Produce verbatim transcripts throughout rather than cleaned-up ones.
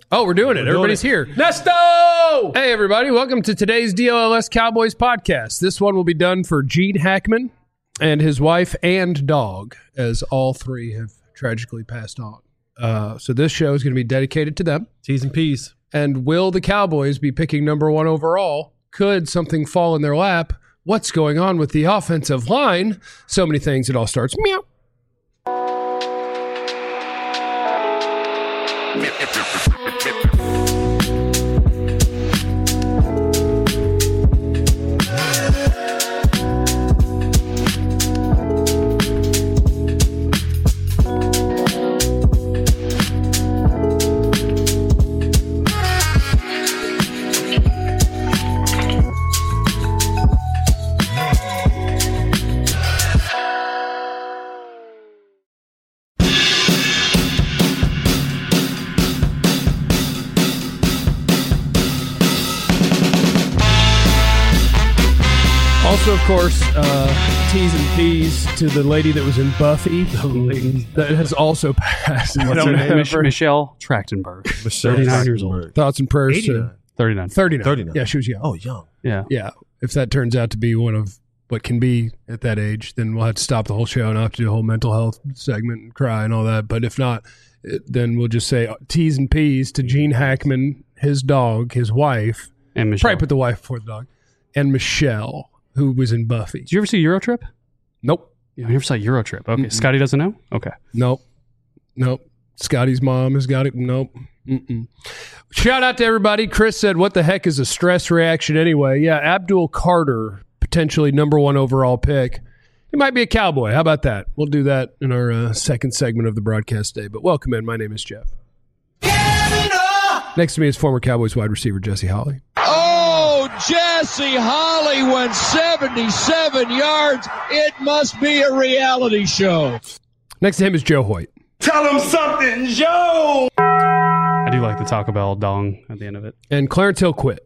Oh, we're doing it. We're Everybody's doing it. here. Nesto! Hey, everybody. Welcome to today's D L L S Cowboys podcast. This one will be done for Gene Hackman and his wife and dog, as all three have tragically passed on. Uh, so this show is going to be dedicated to them. T's and P's. And will the Cowboys be picking number one overall? Could something fall in their lap? What's going on with the offensive line? So many things. It all starts meow. Also, of course, uh, T's and P's to the lady that was in Buffy that has also passed. What's her name? Mich- Michelle Trachtenberg. Michelle thirty-nine years old. Thoughts and prayers eighty-nine. to thirty-nine. thirty-nine. thirty-nine. Yeah, she was young. Oh, young. Yeah. Yeah. If that turns out to be one of what can be at that age, then we'll have to stop the whole show and I'll have to do a whole mental health segment and cry and all that. But if not, it, then we'll just say T's and P's to Gene Hackman, his dog, his wife. And Michelle. Probably put the wife before the dog. And Michelle, who was in Buffy. Did you ever see Eurotrip? Nope. You never saw Eurotrip. Okay. Mm-mm. Scotty doesn't know? Okay. Nope. Nope. Scotty's mom has got it. Nope. Mm-mm. Shout out to everybody. Chris said, what the heck is a stress reaction anyway? Yeah, Abdul Carter, potentially number one overall pick. He might be a Cowboy. How about that? We'll do that in our uh, second segment of the broadcast day. But welcome in. My name is Jeff. Next to me is former Cowboys wide receiver Jesse Holley. Oh, Jesse Holley went seventy-seven yards. It must be a reality show. Next to him is Joe Hoyt. Tell him something, Joe! I do like the Taco Bell dong at the end of it. And Clarence Hill quit.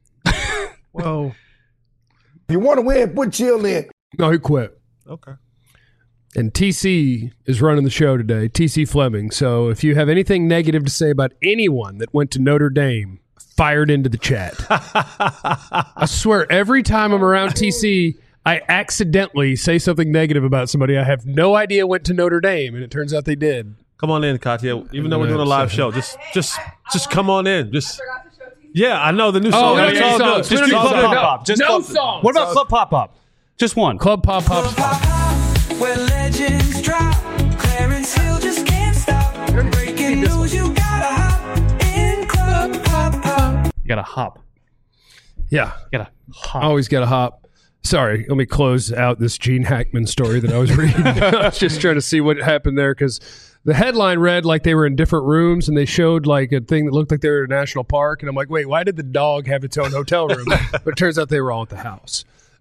Whoa. If you want to win, put chill in. No, he quit. Okay. And T C is running the show today, T C Fleming. So if you have anything negative to say about anyone that went to Notre Dame, fired into the chat. I swear, every time I'm around T C, I accidentally say something negative about somebody I have no idea went to Notre Dame, and it turns out they did. Come on in, Katya. Even though we're doing a live show, just just just come on in. Just Yeah, I know the new song. Oh, It's no, all no, good. no, Just no, keep no, up. no, Pop Up. Just no Club- song. What about Club Pop Up? Just one. Club Pop Pop. Where legends drop, Clarence Hill just can't stop. Breaking news, you gotta hop in Club Pop Pop. You got to hop. Yeah, You got to hop. always got to hop. Sorry, let me close out this Gene Hackman story that I was reading. I was just trying to see what happened there because the headline read like they were in different rooms and they showed like a thing that looked like they were in a national park. And I'm like, wait, why did the dog have its own hotel room? But it turns out they were all at the house.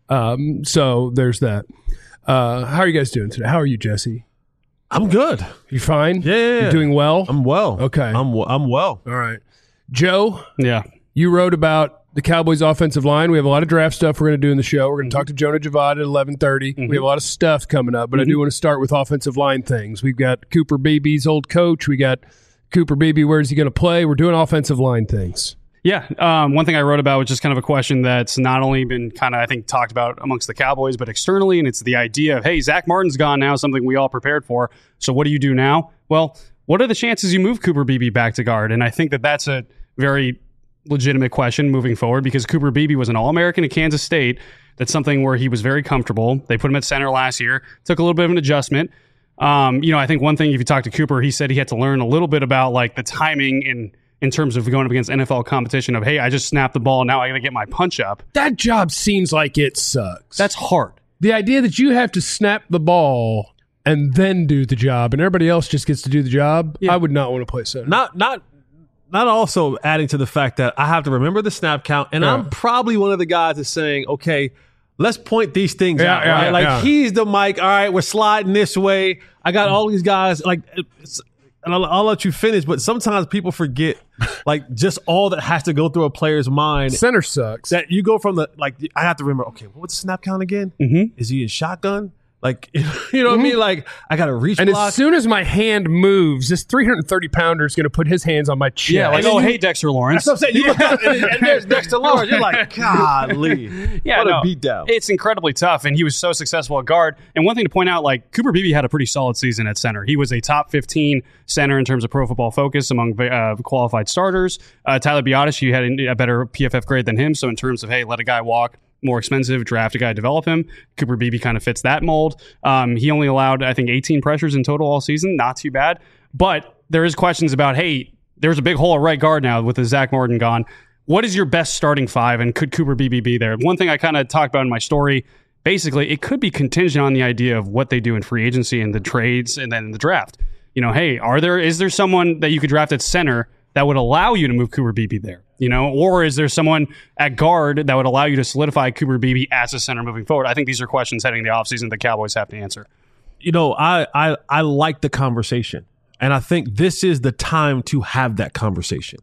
Um, so there's that. Uh, how are you guys doing today? How are you, Jesse? I'm good. You fine? Yeah, yeah, yeah. You doing well? I'm well. Okay. I'm w- I'm well. All right. Joe, Yeah. you wrote about the Cowboys offensive line. We have a lot of draft stuff we're going to do in the show. We're going to talk to Jonah Javad at eleven thirty. Mm-hmm. We have a lot of stuff coming up, but I do want to start with offensive line things. We've got Cooper Beebe's old coach. We got Cooper Beebe. Where's he going to play? We're doing offensive line things. Yeah. Um, one thing I wrote about was just kind of a question that's not only been kind of, I think, talked about amongst the Cowboys, but externally. And it's the idea of, hey, Zach Martin's gone now, something we all prepared for. So what do you do now? Well, what are the chances you move Cooper Beebe back to guard? And I think that that's a very legitimate question moving forward because Cooper Beebe was an All-American at Kansas State. That's something where he was very comfortable. They put him at center last year. Took a little bit of an adjustment. Um, you know, I think one thing, if you talk to Cooper, he said he had to learn a little bit about like the timing and in terms of going up against N F L competition of, hey, I just snapped the ball. Now I got to get my punch up. That job seems like it sucks. That's hard. The idea that you have to snap the ball and then do the job and everybody else just gets to do the job. Yeah. I would not want to play center. Not not not also adding to the fact that I have to remember the snap count, and Yeah. I'm probably one of the guys that's saying, okay, let's point these things Yeah, out. yeah, Right? yeah, like yeah. he's the mic. All right, we're sliding this way. I got all these guys. Like, it's, and I'll, I'll let you finish. But sometimes people forget, like, just all that has to go through a player's mind. Center sucks. That you go from the like. I have to remember. Okay, what's the snap count again? Mm-hmm. Is he in shotgun? Like, you know what mm-hmm. I mean? Like, I got to reach And block. as soon as my hand moves, this three hundred thirty pounder is going to put his hands on my chest. Yeah, like, oh, hey, Dexter Lawrence. That's what I'm saying. You look up and, and there's Dexter Lawrence. You're like, golly. Yeah, what no, a beatdown. It's incredibly tough, and he was so successful at guard. And one thing to point out, like, Cooper Beebe had a pretty solid season at center. He was a top fifteen center in terms of Pro Football Focus among uh, qualified starters. Uh, Tyler Biotish, you had a, a better P F F grade than him, so in terms of, hey, let a guy walk, more expensive, draft a guy, develop him. Cooper Beebe kind of fits that mold. Um, he only allowed, I think, eighteen pressures in total all season. Not too bad. But there is questions about, hey, there's a big hole at right guard now with the Zach Martin gone. What is your best starting five, and could Cooper Beebe be there? One thing I kind of talked about in my story, basically, it could be contingent on the idea of what they do in free agency and the trades and then in the draft. You know, hey, are there is there someone that you could draft at center that would allow you to move Cooper Beebe there? You know, or is there someone at guard that would allow you to solidify Cooper Beebe as a center moving forward? I think these are questions heading the offseason the Cowboys have to answer. You know, I, I I like the conversation, and I think this is the time to have that conversation.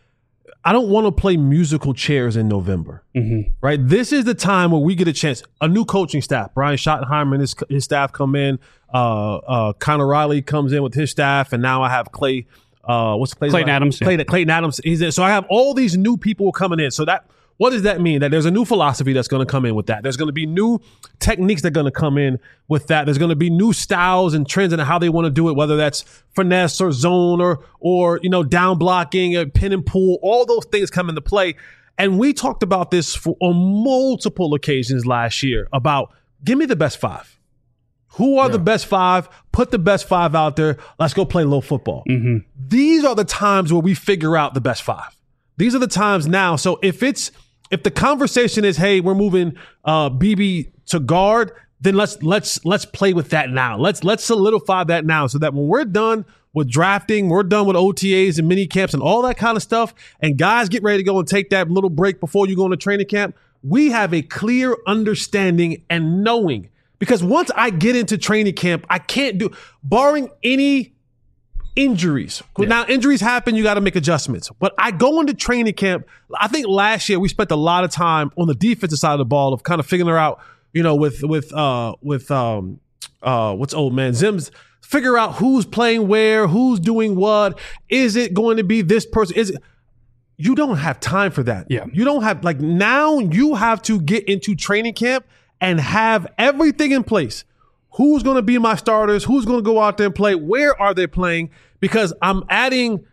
I don't want to play musical chairs in November, mm-hmm. right? This is the time where we get a chance. A new coaching staff, Brian Schottenheimer and his, his staff come in. Uh, uh, Connor Riley comes in with his staff, and now I have Clay. Uh, what's Clay's Clayton name? Adams? Clayton, Yeah. Clayton Adams. He's in. So I have all these new people coming in. So that what does that mean? That there's a new philosophy that's going to come in with that. There's going to be new techniques that are going to come in with that. There's going to be new styles and trends and how they want to do it, whether that's finesse or zone or or you know down blocking, or pin and pull. All those things come into play. And we talked about this for, on multiple occasions last year about give me the best five. Who are yeah. the best five? Put the best five out there. Let's go play a little football. Mm-hmm. These are the times where we figure out the best five. These are the times now. So if it's if the conversation is, hey, we're moving uh, B B to guard, then let's let's let's play with that now. Let's let's solidify that now, so that when we're done with drafting, we're done with O T As and mini camps and all that kind of stuff, and guys get ready to go and take that little break before you go into training camp, we have a clear understanding and knowing. Because once I get into training camp, I can't do, barring any injuries. Yeah. Now, injuries happen, you got to make adjustments. But I go into training camp, I think last year we spent a lot of time on the defensive side of the ball of kind of figuring out, you know, with, with, uh, with, um, uh, what's old man, Zim's, figure out who's playing where, who's doing what. Is it going to be this person? Is it, you don't have time for that. Yeah. You don't have, like, now you have to get into training camp and have everything in place. Who's going to be my starters? Who's going to go out there and play? Where are they playing? Because I'm adding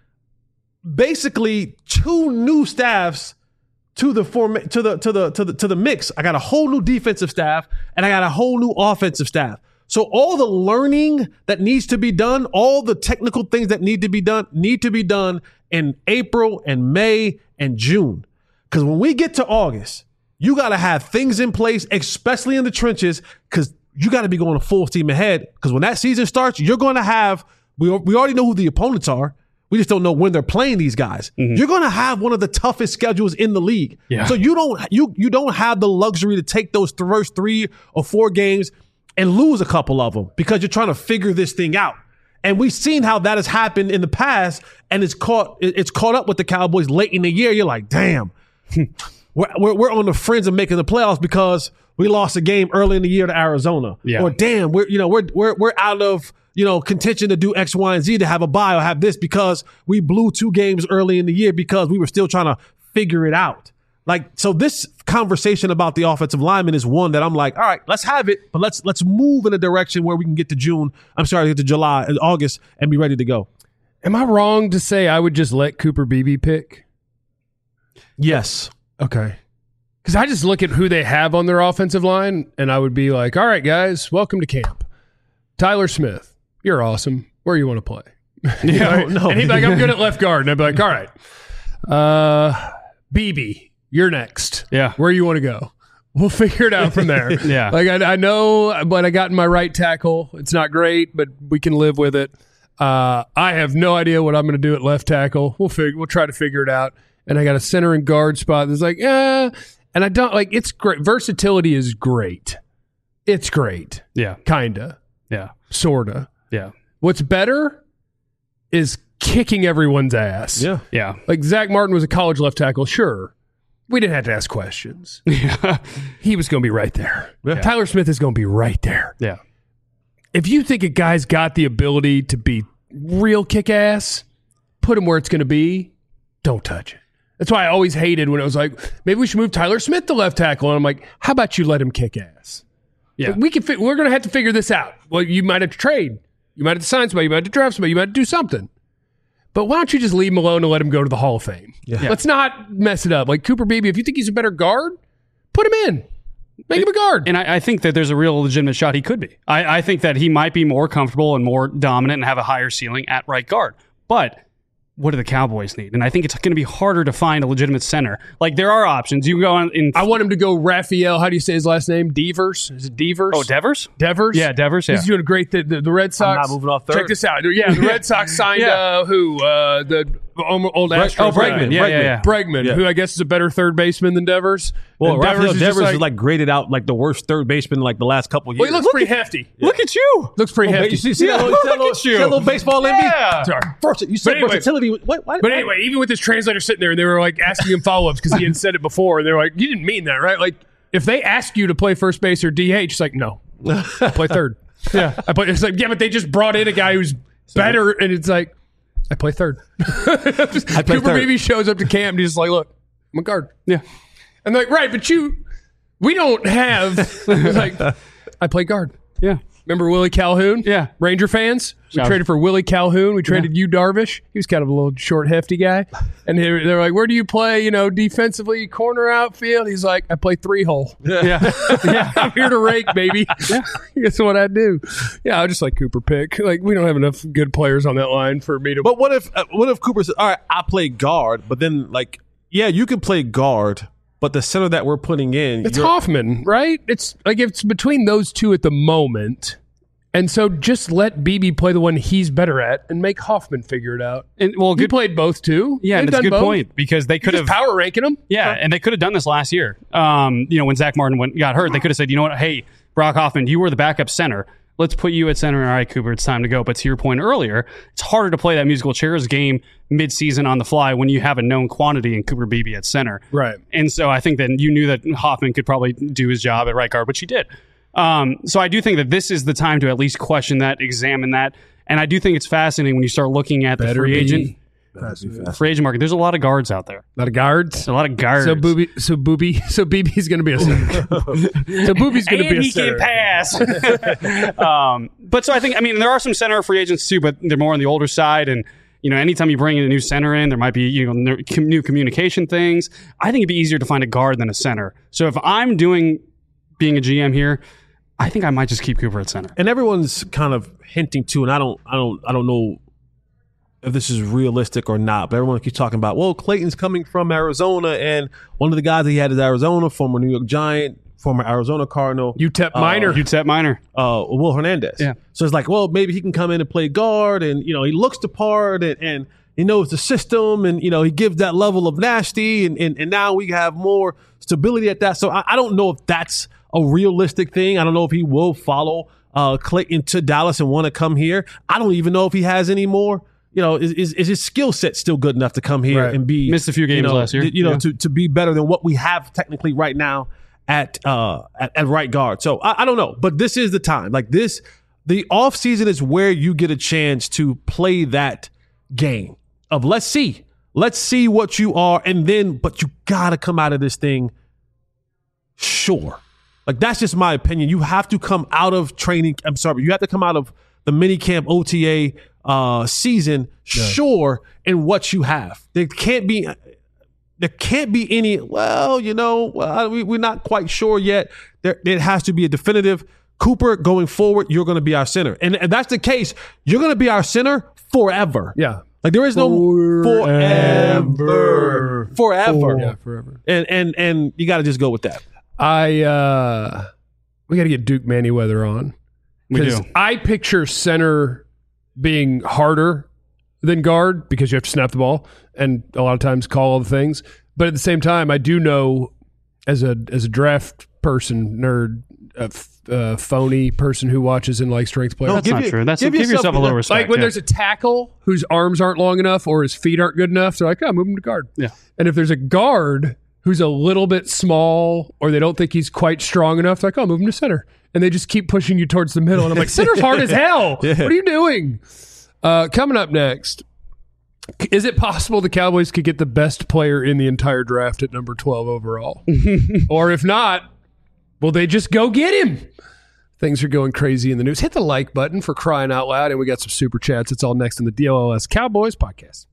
basically two new staffs to the form to the to the to the to the mix. I got a whole new defensive staff and I got a whole new offensive staff. So all the learning that needs to be done, all the technical things that need to be done, need to be done in April and May and June. Because when we get to August, you got to have things in place, especially in the trenches, because you got to be going full steam ahead. Because when that season starts, you're going to have, we, we already know who the opponents are. We just don't know when they're playing these guys. Mm-hmm. You're going to have one of the toughest schedules in the league. Yeah. So you don't you you don't have the luxury to take those first three or four games and lose a couple of them because you're trying to figure this thing out. And we've seen how that has happened in the past, and it's caught it's caught up with the Cowboys late in the year. You're like, damn. We're, we're we're on the fringe of making the playoffs because we lost a game early in the year to Arizona. Yeah. Or damn, we're you know we're we're we're out of you know contention to do X, Y, and Z to have a bye or have this because we blew two games early in the year because we were still trying to figure it out. Like so, this conversation about the offensive lineman is one that I'm like, all right, let's have it, but let's let's move in a direction where we can get to June. I'm sorry, get to July and August and be ready to go. Am I wrong to say I would just let Cooper Beebe pick? Yes. Okay. Because I just look at who they have on their offensive line, and I would be like, all right, guys, welcome to camp. Tyler Smith, you're awesome. Where you want to play? Yeah, no, no. And he'd be like, I'm good at left guard. And I'd be like, all right. Uh, Beebe, you're next. Yeah. Where you want to go? We'll figure it out from there. Yeah. Like, I, I know, but I got in my right tackle. It's not great, but we can live with it. Uh, I have no idea what I'm going to do at left tackle. We'll figure. We'll try to figure it out. And I got a center and guard spot that's like, eh. And I don't like it's great. Versatility is great. It's great. Yeah. Kinda. Yeah. Sorta. Yeah. What's better is kicking everyone's ass. Yeah. Yeah. Like Zach Martin was a college left tackle. Sure. We didn't have to ask questions. Yeah. He was going to be right there. Yeah. Tyler Smith is going to be right there. Yeah. if you think a guy's got the ability to be real kick-ass, put him where it's going to be. Don't touch it. That's why I always hated when it was like, maybe we should move Tyler Smith to left tackle. And I'm like, how about you let him kick ass? Yeah. Like, we can. Fi- we're going to have to figure this out. Well, you might have to trade. You might have to sign somebody. You might have to draft somebody. You might have to do something. But why don't you just leave him alone and let him go to the Hall of Fame? Yeah. Let's not mess it up. Like Cooper Beebe, if you think he's a better guard, put him in. Make him a guard. And I, I think that there's a real legitimate shot he could be. I, I think that he might be more comfortable and more dominant and have a higher ceiling at right guard. But what do the Cowboys need? And I think it's going to be harder to find a legitimate center. Like, there are options. You can go on in. I want him to go Raphael. How do you say his last name? Devers? Is it Devers? Oh, Devers? Devers? Yeah, Devers. Yeah. He's doing great. The, the, the Red Sox. not moving off third. Check this out. Yeah, the Red Sox signed Yeah. uh, who? Uh, the old Astros. oh, guy. Bregman. Yeah, yeah, yeah. Bregman, Yeah. who I guess is a better third baseman than Devers. Well, And Rafael is Devers, just is like graded out like the worst third baseman like the last couple of Well, years. he looks pretty hefty. Look at you. Looks pretty Oh, hefty. you see, see that Yeah, little, see that look little, at see you. that little baseball in me? Yeah. Sorry. First, you said But anyway- versatility. What, why, But why- anyway, even with this translator sitting there, and they were like asking him follow ups because he had said it before, and they're like, "You didn't mean that, right?" Like, if they ask you to play first base or D H, it's like, no, I play third. Yeah, I play. It's like, yeah, but they just brought in a guy who's better, and it's like, I play third. I play Cooper third. Beebe shows up to camp, and he's just like, "Look, I'm a guard." Yeah. I'm like, right, but you, we don't have. It's like, I play guard. Yeah. Remember Willie Calhoun? Yeah. Ranger fans? We Shout- traded for Willie Calhoun. We traded you Darvish. He was kind of a little short, hefty guy. And they were, they were like, where do you play, you know, defensively, corner, outfield? He's like, I play three hole. Yeah. Yeah. I'm here to rake, baby. That's what I do. Yeah, I just like Cooper pick. Like, we don't have enough good players on that line for me to. But what if uh, what if Cooper says, "All right, I play guard," but then like, yeah, you can play guard, but the center that we're putting in, It's you're- Hoffman, right? It's like it's between those two at the moment. And so just let Beebe play the one he's better at and make Hoffman figure it out. And well, You good. played both too. Yeah, and They've it's a done good both. point because they You're could just have. power ranking them. Yeah, and they could have done this last year. Um, you know, when Zach Martin went, got hurt, they could have said, you know what, hey, Brock Hoffman, you were the backup center. Let's put you at center. All right, Cooper, it's time to go. But to your point earlier, it's harder to play that musical chairs game mid-season on the fly when you have a known quantity in Cooper Beebe at center. Right. And so I think that you knew that Hoffman could probably do his job at right guard, which he did. Um, so I do think that this is the time to at least question that, examine that. And I do think it's fascinating when you start looking at the Better free be. agent free agent market. There's a lot of guards out there. A lot of guards. There's a lot of guards. So Booby, so Booby, so Beebe's going to be a center. so Booby's going to be and a he center. can pass. um, but so I think, I mean, there are some center free agents too, but they're more on the older side. And, you know, anytime you bring in a new center in, there might be, you know, ner- com- new communication things. I think it'd be easier to find a guard than a center. So if I'm doing, being a G M here, I think I might just keep Cooper at center. and everyone's kind of hinting to, and I don't, I don't, I don't know if this is realistic or not, but everyone keeps talking about, well, Clayton's coming from Arizona, and one of the guys that he had is Arizona, former New York Giant, former Arizona Cardinal, U T E P minor. U T E P minor. uh, Will Hernandez. Yeah. So it's like, well, maybe he can come in and play guard, and you know, he looks the part, and, and he knows the system, and you know, he gives that level of nasty, and and, and now we have more stability at that. So I, I don't know if that's a realistic thing. I don't know if he will follow uh, Clayton to Dallas and want to come here. I don't even know if he has any more. You know, is is, is his skill set still good enough to come here Right. and be Missed a few you games know, last year. You know, Yeah. to to be better than what we have technically right now at uh at, at right guard. So I, I don't know, but this is the time. Like this, the off season is where you get a chance to play that game of let's see, let's see what you are, and then but you gotta come out of this thing sure. Like that's just my opinion. You have to come out of training. I'm sorry, you have to come out of the mini camp O T A uh, season sure in what you have. There can't be. There can't be any, well, you know, well, we, we're not quite sure yet. There, it has to be a definitive. Cooper, going forward, you're going to be our center. And if that's the case, you're going to be our center forever. Yeah. Like there is no forever. Forever. Yeah, forever. And, and, and you got to just go with that. I uh we got to get Duke Manyweather on. We 'Cause do. I picture center being harder than guard because you have to snap the ball and a lot of times call all the things. But at the same time, I do know as a as a draft person, nerd, a f- uh, phony person who watches and likes strength players. That's give not you- true. That's give give, yourself- yourself a little respect. Like when yeah. there's a tackle whose arms aren't long enough or his feet aren't good enough, they're like, oh, move him to guard. Yeah. And if there's a guard who's a little bit small or they don't think he's quite strong enough, they're like, oh, move him to center. and they just keep pushing you towards the middle. And I'm like, center's hard as hell. Yeah. What are you doing? Uh, coming up next, is it possible the Cowboys could get the best player in the entire draft at number twelve overall? Or if not, will they just go get him? Things are going crazy in the news. Hit the like button for crying out loud, and we got some super chats. It's all next in the D L L S Cowboys podcast.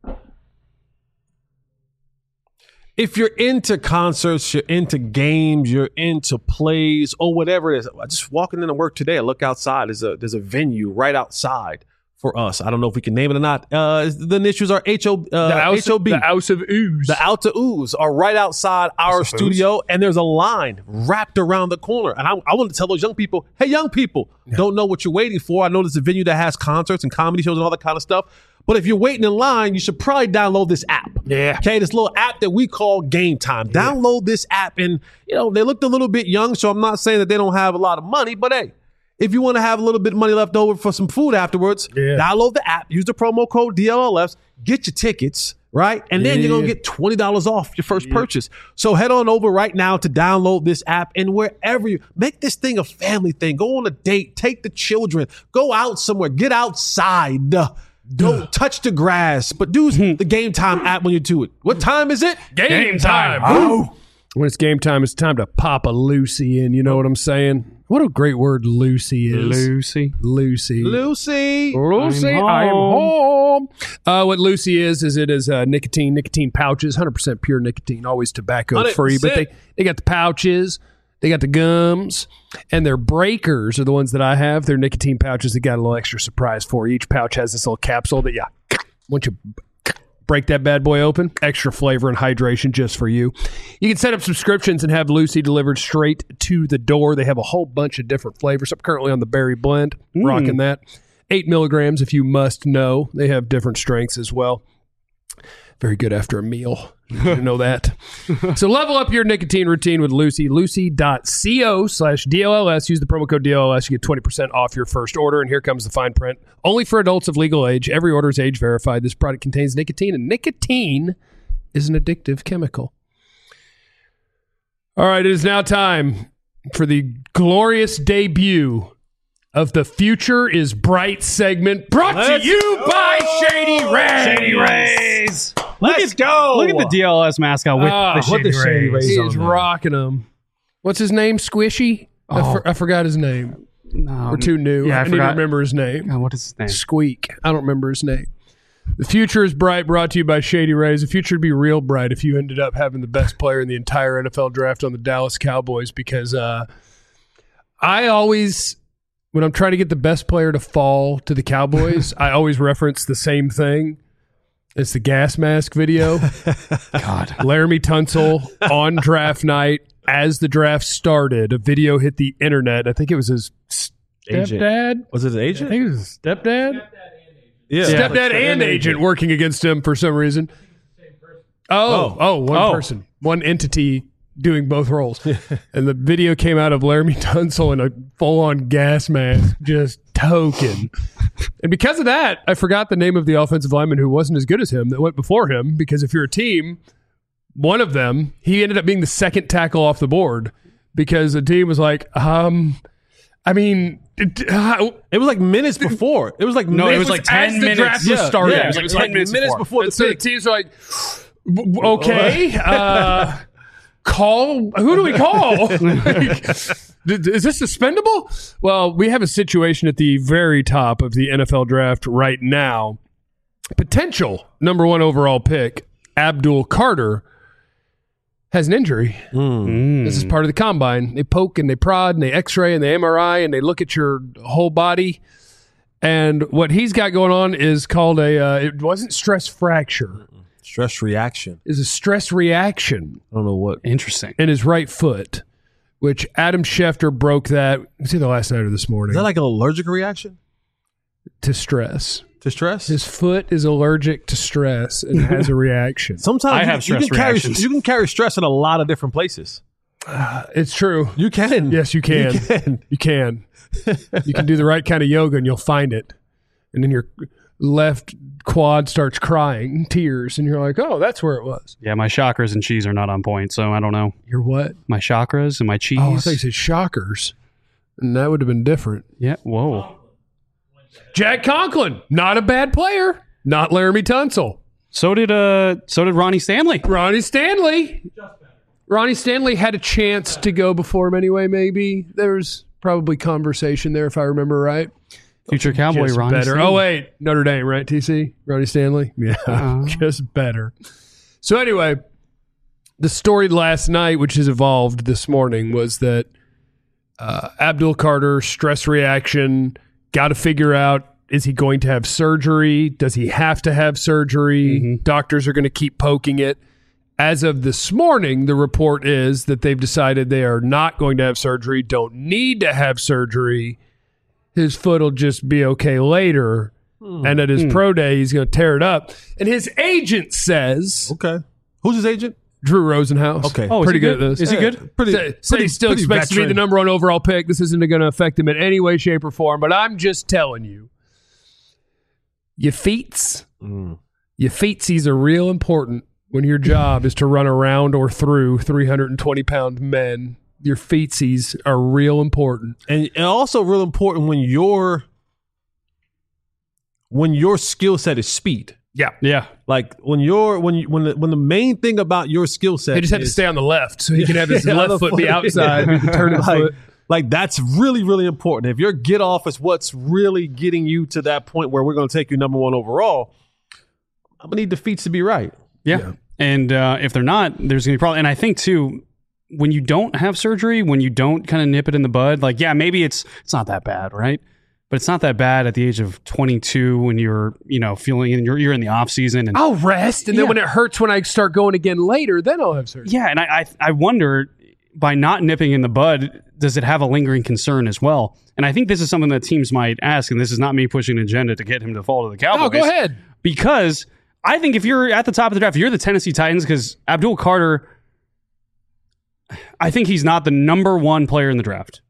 If you're into concerts, you're into games, you're into plays, or whatever it is, just walking into work today, I look outside. There's a there's a venue right outside for us. I don't know if we can name it or not. Uh, the initials are H O uh, The House, H O B. the House of Ooze. The Out to Ooze are right outside our studio, and there's a line wrapped around the corner. And I, I want to tell those young people, hey, young people, don't know what you're waiting for. I know there's a venue that has concerts and comedy shows and all that kind of stuff. But if you're waiting in line, you should probably download this app. Yeah. Okay, this little app that we call Game Time. Yeah. Download this app. And, you know, they looked a little bit young, so I'm not saying that they don't have a lot of money. But, hey, if you want to have a little bit of money left over for some food afterwards, yeah. download the app. Use the promo code D L L S. Get your tickets, right? And then yeah. you're going to get twenty dollars off your first yeah. purchase. So head on over right now to download this app. And wherever you make this thing a family thing, go on a date, take the children, go out somewhere, get outside. Go touch the grass, but do the Game Time app when you do it. What time is it? Game, game time. time. Oh. When it's game time, it's time to pop a Lucy in. You know what I'm saying? What a great word Lucy is. Lucy. Lucy. Lucy. Lucy, I'm I'm home. home. Uh, what Lucy is, is it is uh, nicotine, nicotine pouches, one hundred percent pure nicotine, always tobacco free. But they, they got the pouches. They got the gums, and their breakers are the ones that I have. They're nicotine pouches that got a little extra surprise for you. Each pouch has this little capsule that, yeah, once you break that bad boy open, extra flavor and hydration just for you. You can set up subscriptions and have Lucy delivered straight to the door. They have a whole bunch of different flavors. I'm currently on the berry blend, mm. rocking that. Eight milligrams, if you must know. They have different strengths as well. Very good after a meal. You didn't know that. So level up your nicotine routine with Lucy. Lucy.co slash DLLS. Use the promo code D L L S. You get twenty percent off your first order. And here comes the fine print. Only for adults of legal age. Every order is age verified. This product contains nicotine, and nicotine is an addictive chemical. All right, it is now time for the glorious debut of the Future is Bright segment, brought Let's to you go. by Shady Rays. Shady Rays. Let's look at, go. Look at the D L S mascot with uh, the Shady, the Shady Rays. He is rocking them. What's his name? Squishy? Oh. I, for, I forgot his name. No, We're too new. Yeah, I, I need forgot. to remember his name. Uh, what is his name? Squeak. I don't remember his name. The Future is Bright, brought to you by Shady Rays. The future would be real bright if you ended up having the best player in the entire N F L draft on the Dallas Cowboys, because uh, I always, when I'm trying to get the best player to fall to the Cowboys, I always reference the same thing. It's the gas mask video. God. Laramie Tunsil on draft night, as the draft started, a video hit the internet. I think it was his stepdad. Agent. Was it his agent? I think it was his stepdad. Yeah. Stepdad yeah. and, and agent, agent working against him for some reason. Oh, oh, oh one oh. person, one entity doing both roles. And the video came out of Laramie Tunsil in a full-on gas mask, just token. And because of that, I forgot the name of the offensive lineman who wasn't as good as him that went before him, because if you're a team, one of them, he ended up being the second tackle off the board because the team was like, um, I mean... It, uh, it was like minutes before. It was like no, minutes, it was like ten as the minutes. Draft was yeah, started. Yeah, it was like, it was ten like minutes, minutes before. before the so pick. the teams are like, okay, uh, call. Who do we call? Like, is this suspendable? Well, we have a situation at the very top of the N F L draft right now. Potential number one overall pick, Abdul Carter, has an injury. Mm. This is part of the combine. They poke and they prod and they x-ray and they M R I and they look at your whole body. And what he's got going on is called a, uh, it wasn't stress fracture. Stress reaction. It's a stress reaction. I don't know what. Interesting. In his right foot, which Adam Schefter broke that, it's either last night or this morning. Is that like an allergic reaction? To stress. To stress? His foot is allergic to stress and has a reaction. Sometimes I you, have stress you can carry reactions. you can carry stress in a lot of different places. Uh, it's true. You can. Yes, you can. You can. You can. You can do the right kind of yoga and you'll find it. And then your left quad starts crying, tears, and you're like, oh, that's where it was. Yeah, my chakras and cheese are not on point, so I don't know. Your what? My chakras and my cheese. Oh, I thought you said shockers. and that would have been different. Yeah. Whoa. Jack Conklin, not a bad player. Not Laramie Tunsil. So did uh. So did Ronnie Stanley. Ronnie Stanley. Ronnie Stanley had a chance to go before him anyway, maybe. There was probably conversation there, if I remember right. Future Cowboy Just Ronnie better. Stanley. Oh, wait. Notre Dame, right, T C? Ronnie Stanley? Yeah, Uh-huh. just better. So anyway, the story last night, which has evolved this morning, was that uh, Abdul Carter, stress reaction, got to figure out, is he going to have surgery? Does he have to have surgery? Mm-hmm. Doctors are going to keep poking it. As of this morning, the report is that they've decided they are not going to have surgery, don't need to have surgery. His foot will just be okay later. Hmm. And at his pro day, he's going to tear it up. And his agent says, Okay. Who's his agent? Drew Rosenhaus. Okay. Oh, is pretty he good, good? at this. Is he Yeah, good? Pretty, Say, say pretty, he still pretty expects to be the veteran. number one overall pick. This isn't going to affect him in any way, shape, or form. But I'm just telling you, your feets, Mm. your feetsies are real important when your job is to run around or through three hundred twenty pound men. Your feetsies are real important. And, and also real important when your when your skill set is speed. Yeah. Yeah. Like when you're when you when the, when the main thing about your skill set, They just have to is- stay on the left so he can have his Yeah, left the foot be foot. outside. He can turn his like, foot. like that's really really important. If your get off is what's really getting you to that point where we're going to take you number one overall, I'm gonna need the feet to be right. Yeah. Yeah. And uh, if they're not, there's going to be problem. And I think too, when you don't have surgery, when you don't kind of nip it in the bud, like, yeah, maybe it's it's not that bad, right? But it's not that bad at the age of twenty-two when you're, you know, feeling in, you're, you're in the off season. And I'll rest, and then Yeah. when it hurts when I start going again later, then I'll have surgery. yeah, and I, I I wonder, by not nipping in the bud, does it have a lingering concern as well? And I think this is something that teams might ask, and this is not me pushing an agenda to get him to fall to the Cowboys. Oh, go ahead. Because I think if you're at the top of the draft, if you're the Tennessee Titans, because Abdul Carter, I think he's not the number one player in the draft.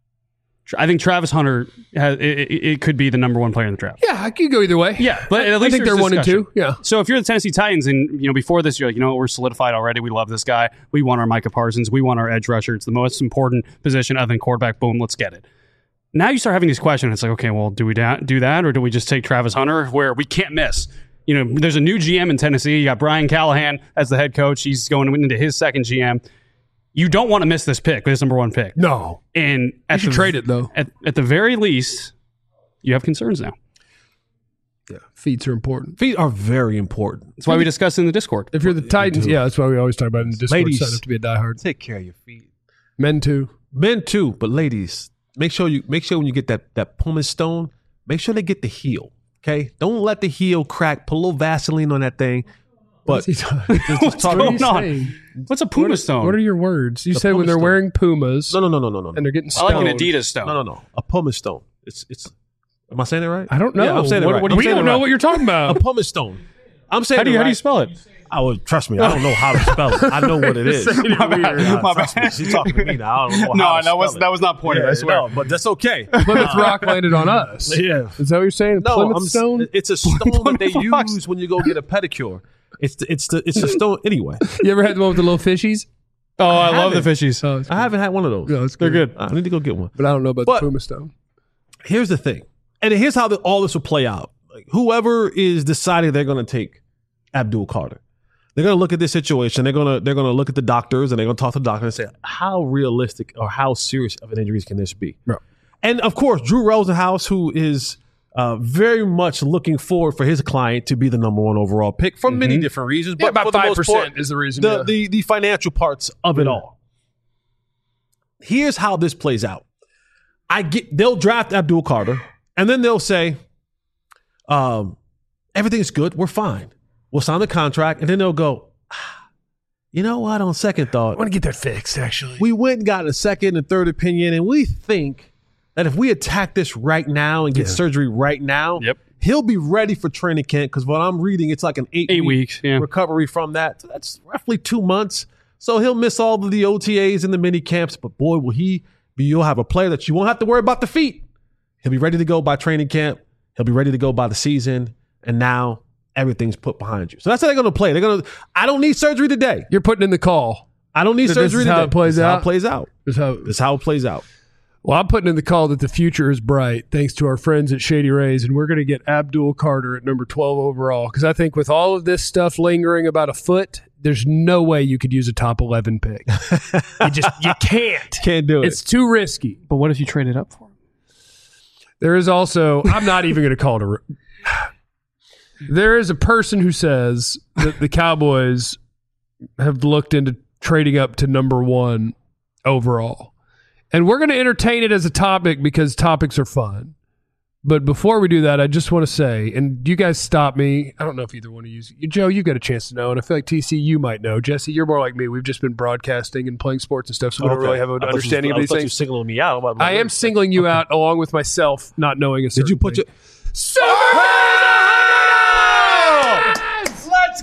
I think Travis Hunter has, it, it, it could be the number one player in the draft. Yeah, I could go either way. Yeah, but I, at least I think there's they're one and discussion. two. Yeah. So if you're the Tennessee Titans, and you know before this, you're like, you know, we're solidified already. We love this guy. We want our Micah Parsons. We want our edge rusher. It's the most important position other than quarterback. Boom, let's get it. Now you start having these questions. It's like, okay, well, do we da- do that, or do we just take Travis Hunter, where we can't miss? You know, there's a new G M in Tennessee. You got Brian Callahan as the head coach. He's going into his second G M. You don't want to miss this pick, this number one pick. No. And at should the, trade it, though. At, at the very least, you have concerns now. Yeah. Feet are important. Feet are very important. That's why we discussed in the Discord. If you're the Titans, yeah, that's why we always talk about it in the Discord. Ladies. Sign up to be a diehard. Take care of your feet. Men too. Men too, but ladies, make sure you make sure when you get that that pumice stone, make sure they get the heel. Okay, don't let the heel crack. Put a little Vaseline on that thing. But What's he talking? What's What are you going on? saying? What's a Puma stone? What are your words? You The said when pumice they're stone. wearing Pumas no, no, no, no, no, no, and no, they're getting I like stoned. an Adidas stone. no, no, no. A pumice stone. It's it's. Am I saying it right? I don't know. Yeah, I'm saying it What- right. what- I'm we saying don't it know right. what you're talking about. A pumice stone. I'm saying How do you it how right. do you spell it? I would trust me. I don't know how to spell it. I know what it is. Saying it My bad. weird. Nah, My trust bad. me. She's talking to me now. I don't know No, how to that was spell it. that was not pointed. Yeah, I swear. no, but that's okay. Plymouth Rock landed on us. Yeah. Is that what you're saying? No, Plymouth I'm, Stone? it's a stone that they Plymouth Rock. use when you go get a pedicure. It's the, it's the it's a stone anyway. You ever had the one with the little fishies? Oh, I, love the haven't. fishies. Oh, it's I haven't had one of those. No, it's They're good. I need to go get one. But I don't know about But- the Puma Stone. Here's the thing, and here's how the, all this will play out. Like whoever is deciding they're going to take Abdul Carter, they're going to look at this situation. They're going to they're going to look at the doctors and they're going to talk to the doctor and say how realistic or how serious of an injury can this be. Right. And of course, Drew Rosenhaus, who is uh, very much looking forward for his client to be the number one overall pick for many different reasons. Yeah, But about for the five most part, percent is the reason. the, yeah. the the financial parts of it all. Here's how this plays out. I get they'll draft Abdul Carter, and then they'll say, um, everything's good, we're fine. We'll sign the contract, and then they'll go, ah, you know what? On second I thought, want to get that fixed, actually. we went and got a second and third opinion, and we think that if we attack this right now and get Yeah. surgery right now, Yep. he'll be ready for training camp. Because what I'm reading, it's like an eight, Eight week weeks, yeah. recovery from that. So that's roughly two months. So he'll miss all of the O T As and the mini camps. But boy, will he be! You'll have a player that you won't have to worry about the feet. He'll be ready to go by training camp. He'll be ready to go by the season. And now everything's put behind you. So that's how they're going to play. They're going to. I don't need surgery today. You're putting in the call. I don't need So this surgery is today. how it plays This is how out? it plays out. Is how, This is how it plays out. Well, I'm putting in the call that the future is bright thanks to our friends at Shady Rays, and we're going to get Abdul Carter at number twelve overall because I think with all of this stuff lingering about a foot, there's no way you could use a top eleven pick. You just you can't. Can't do it. It's too risky. But what if you trade it up for him? There is also, I'm not even going to call it a. Re- there is a person who says that the Cowboys have looked into trading up to number one overall. And we're going to entertain it as a topic because topics are fun. But before we do that, I just want to say, and you guys stop me. I don't know if either one of you, Joe, you got a chance to know, and I feel like T C, you might know. Jesse, you're more like me. We've just been broadcasting and playing sports and stuff, so we don't Okay. really have an I thought understanding you, of these I thought things. You singling me out. About I am singling you out along with myself, not knowing a certain Did you put thing. your? Super Let's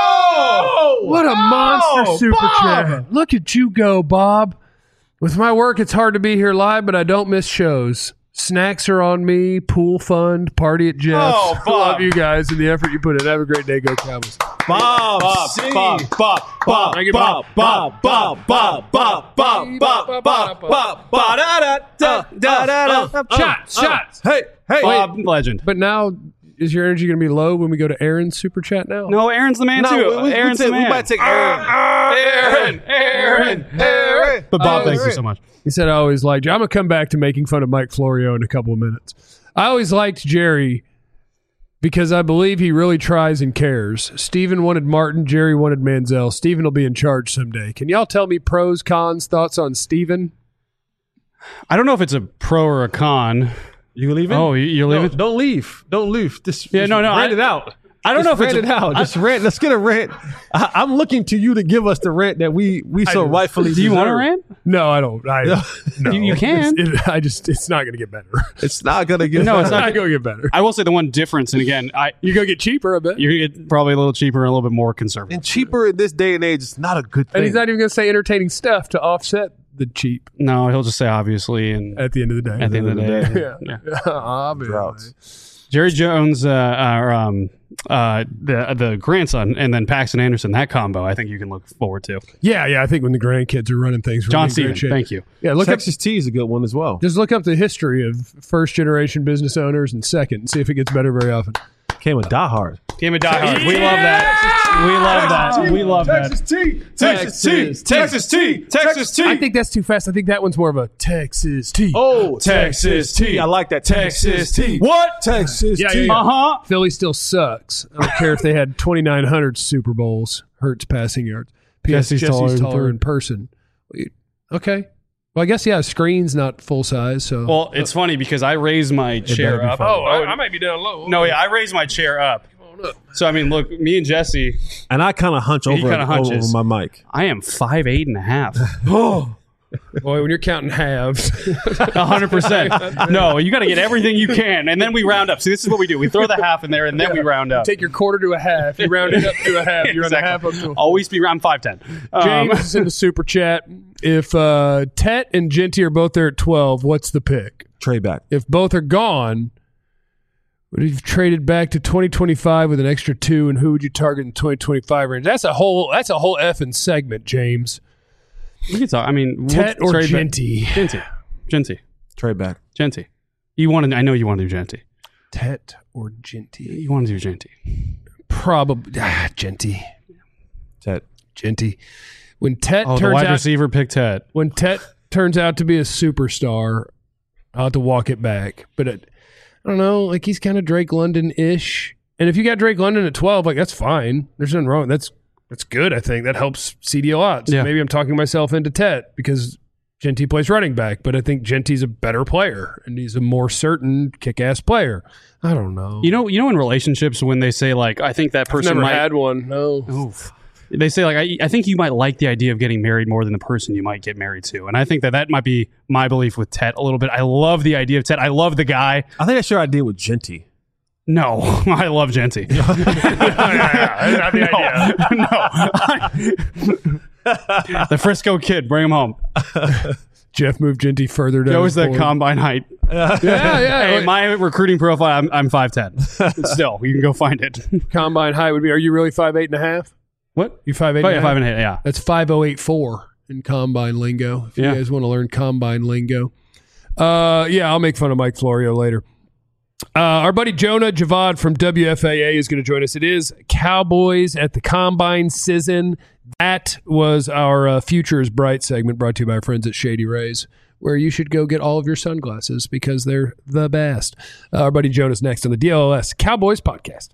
go! What a monster Oh, super Bob! chat. Look at you go, Bob. With my work, it's hard to be here live, but I don't miss shows. Snacks are on me, pool fund, party at Jeff's. Oh, I Bob. love you guys and the effort you put in. Have a great day. Go Cowboys. Bob, Bob, C. Bob, Bob, Bob, Thank you, Bob, Bob, Bob, Bob, Bob, Bob, Bob, Bob, Bob, Bob, da da da da da da. Shots, shots. Hey, hey, Bob, legend. But now, is your energy going to be low when we go to Aaron's super chat now? No, Aaron's the man No, too. we, we, Aaron's we, the take, man. we might take Aaron. Aaron, Aaron, Aaron. But Bob, Oh, thank you Aaron. so much. He said, I always liked you. I'm going to come back to making fun of Mike Florio in a couple of minutes. I always liked Jerry because I believe he really tries and cares. Steven wanted Martin. Jerry wanted Manziel. Steven will be in charge someday. Can y'all tell me pros, cons, thoughts on Steven? I don't know if it's a pro or a con. You leaving? Oh, you- you're No, leaving? don't leave. Don't leave. Just, Yeah, just no, no, Rant I- it out. I don't Just know if rant it's it a- out. I- Just rant. Let's get a rant. I, I'm looking to you to give us the rant that we we so do. rightfully. Do you want to deserve. rant? No, I don't. I, no. You- you can. It's, it, I just, it's not going to get better. It's not gonna get. No, it's It's not. not going to get better. I will say the one difference, and again, I You go get cheaper, I bet. you're gonna get probably a little cheaper and a little bit more conservative. And cheaper in this day and age is not a good thing. And he's not even going to say entertaining stuff to offset the cheap No, he'll just say obviously, and at the end of the day. at the end of the day, yeah. yeah. Obviously. Droughts. Jerry Jones, uh, uh, um, uh, the the grandson, and then Paxton Anderson, that combo, I think you can look forward to. Yeah, yeah. I think when the grandkids are running things, we're John in great Stevens, shape. thank you. Yeah, look up. Texas Tea is a good one as well. Just look up the history of first generation business owners and second, and see if it gets better very often. Came with Die Hard. Game of Die Hard. We love that. We love that. We love that. Tea. Texas Tea. Texas Tea. Texas Tea. I think that's too fast. I think that one's more of a Texas tea. Oh, Texas Tea. I like that. Texas Tea. What? Texas Yeah, yeah, Tea. yeah. Uh huh. Philly still sucks. I don't care if they had twenty-nine hundred Super Bowls, Hurts passing yards. P S. Jesse's Jesse's, taller in taller third. in person. Okay. Well, I guess, yeah, screen's not full size. So. Well, it's funny because I raised my chair better be up. funny. oh, I, I might be down low. No, yeah, I raised my chair up. So I mean, look, me and Jesse, And I kind of hunch He over, kinda over, hunches. over my mic. I am five eight and a half. Boy, when you're counting halves. A hundred percent. No, you got to get everything you can, and then we round up. See, this is what we do: we throw the half in there, and then we round up. Take your quarter to a half. You round it up to a half. You run a half up to a Always be round five ten. James is in the super chat. If uh, Tet and Genty are both there at twelve, what's the pick? Trade back. If both are gone, would you have traded back to twenty twenty-five with an extra two, and who would you target in twenty twenty-five range? That's a whole. That's a whole effing segment, James. We can talk. I mean, Tet we'll or trade back- Genty? Genty, Genty, Trade back. Genty. You want to? I know you want to do Genty. Tet or Genty? You want to do Genty. Probably ah, Genty. Tet. Genty. When Tet Oh, the turns wide out, receiver picked Tet. when Tet turns out to be a superstar, I'll have to walk it back. But it, I don't know, like he's kind of Drake London-ish. And if you got Drake London at twelve, like that's fine. There's nothing wrong. That's that's good, I think. That helps C D a lot. So Yeah. maybe I'm talking myself into Tet because Genty plays running back, but I think Genty's a better player and he's a more certain kick-ass player. I don't know. You know, you know, in relationships when they say like, I think that I've person never might. had one. No. Oof. They say like, I, I think you might like the idea of getting married more than the person you might get married to, and I think that that might be my belief with Tet a little bit. I love the idea of Tet. I love the guy. I think that's your idea with Genty. No, I love Genty. Not the idea. No. The Frisco kid, bring him home. Jeff moved Genty further down. Go his is the board. combine height. Yeah, yeah. Hey, my recruiting profile, I'm, I'm five ten. Still, you can go find it. combine height would be. Are you really five eight and a half? What? You five eight? Oh, and yeah, a five half? and a half. Yeah. That's five oh eight four in combine lingo. If you Yeah. guys want to learn combine lingo. Uh, yeah, I'll make fun of Mike Florio later. Uh, our buddy Jonah Javad from W F A A is going to join us. It is Cowboys at the Combine season. That was our uh, Future is Bright segment brought to you by our friends at Shady Rays, where you should go get all of your sunglasses because they're the best. Uh, our buddy Jonah's next on the D L L S Cowboys podcast.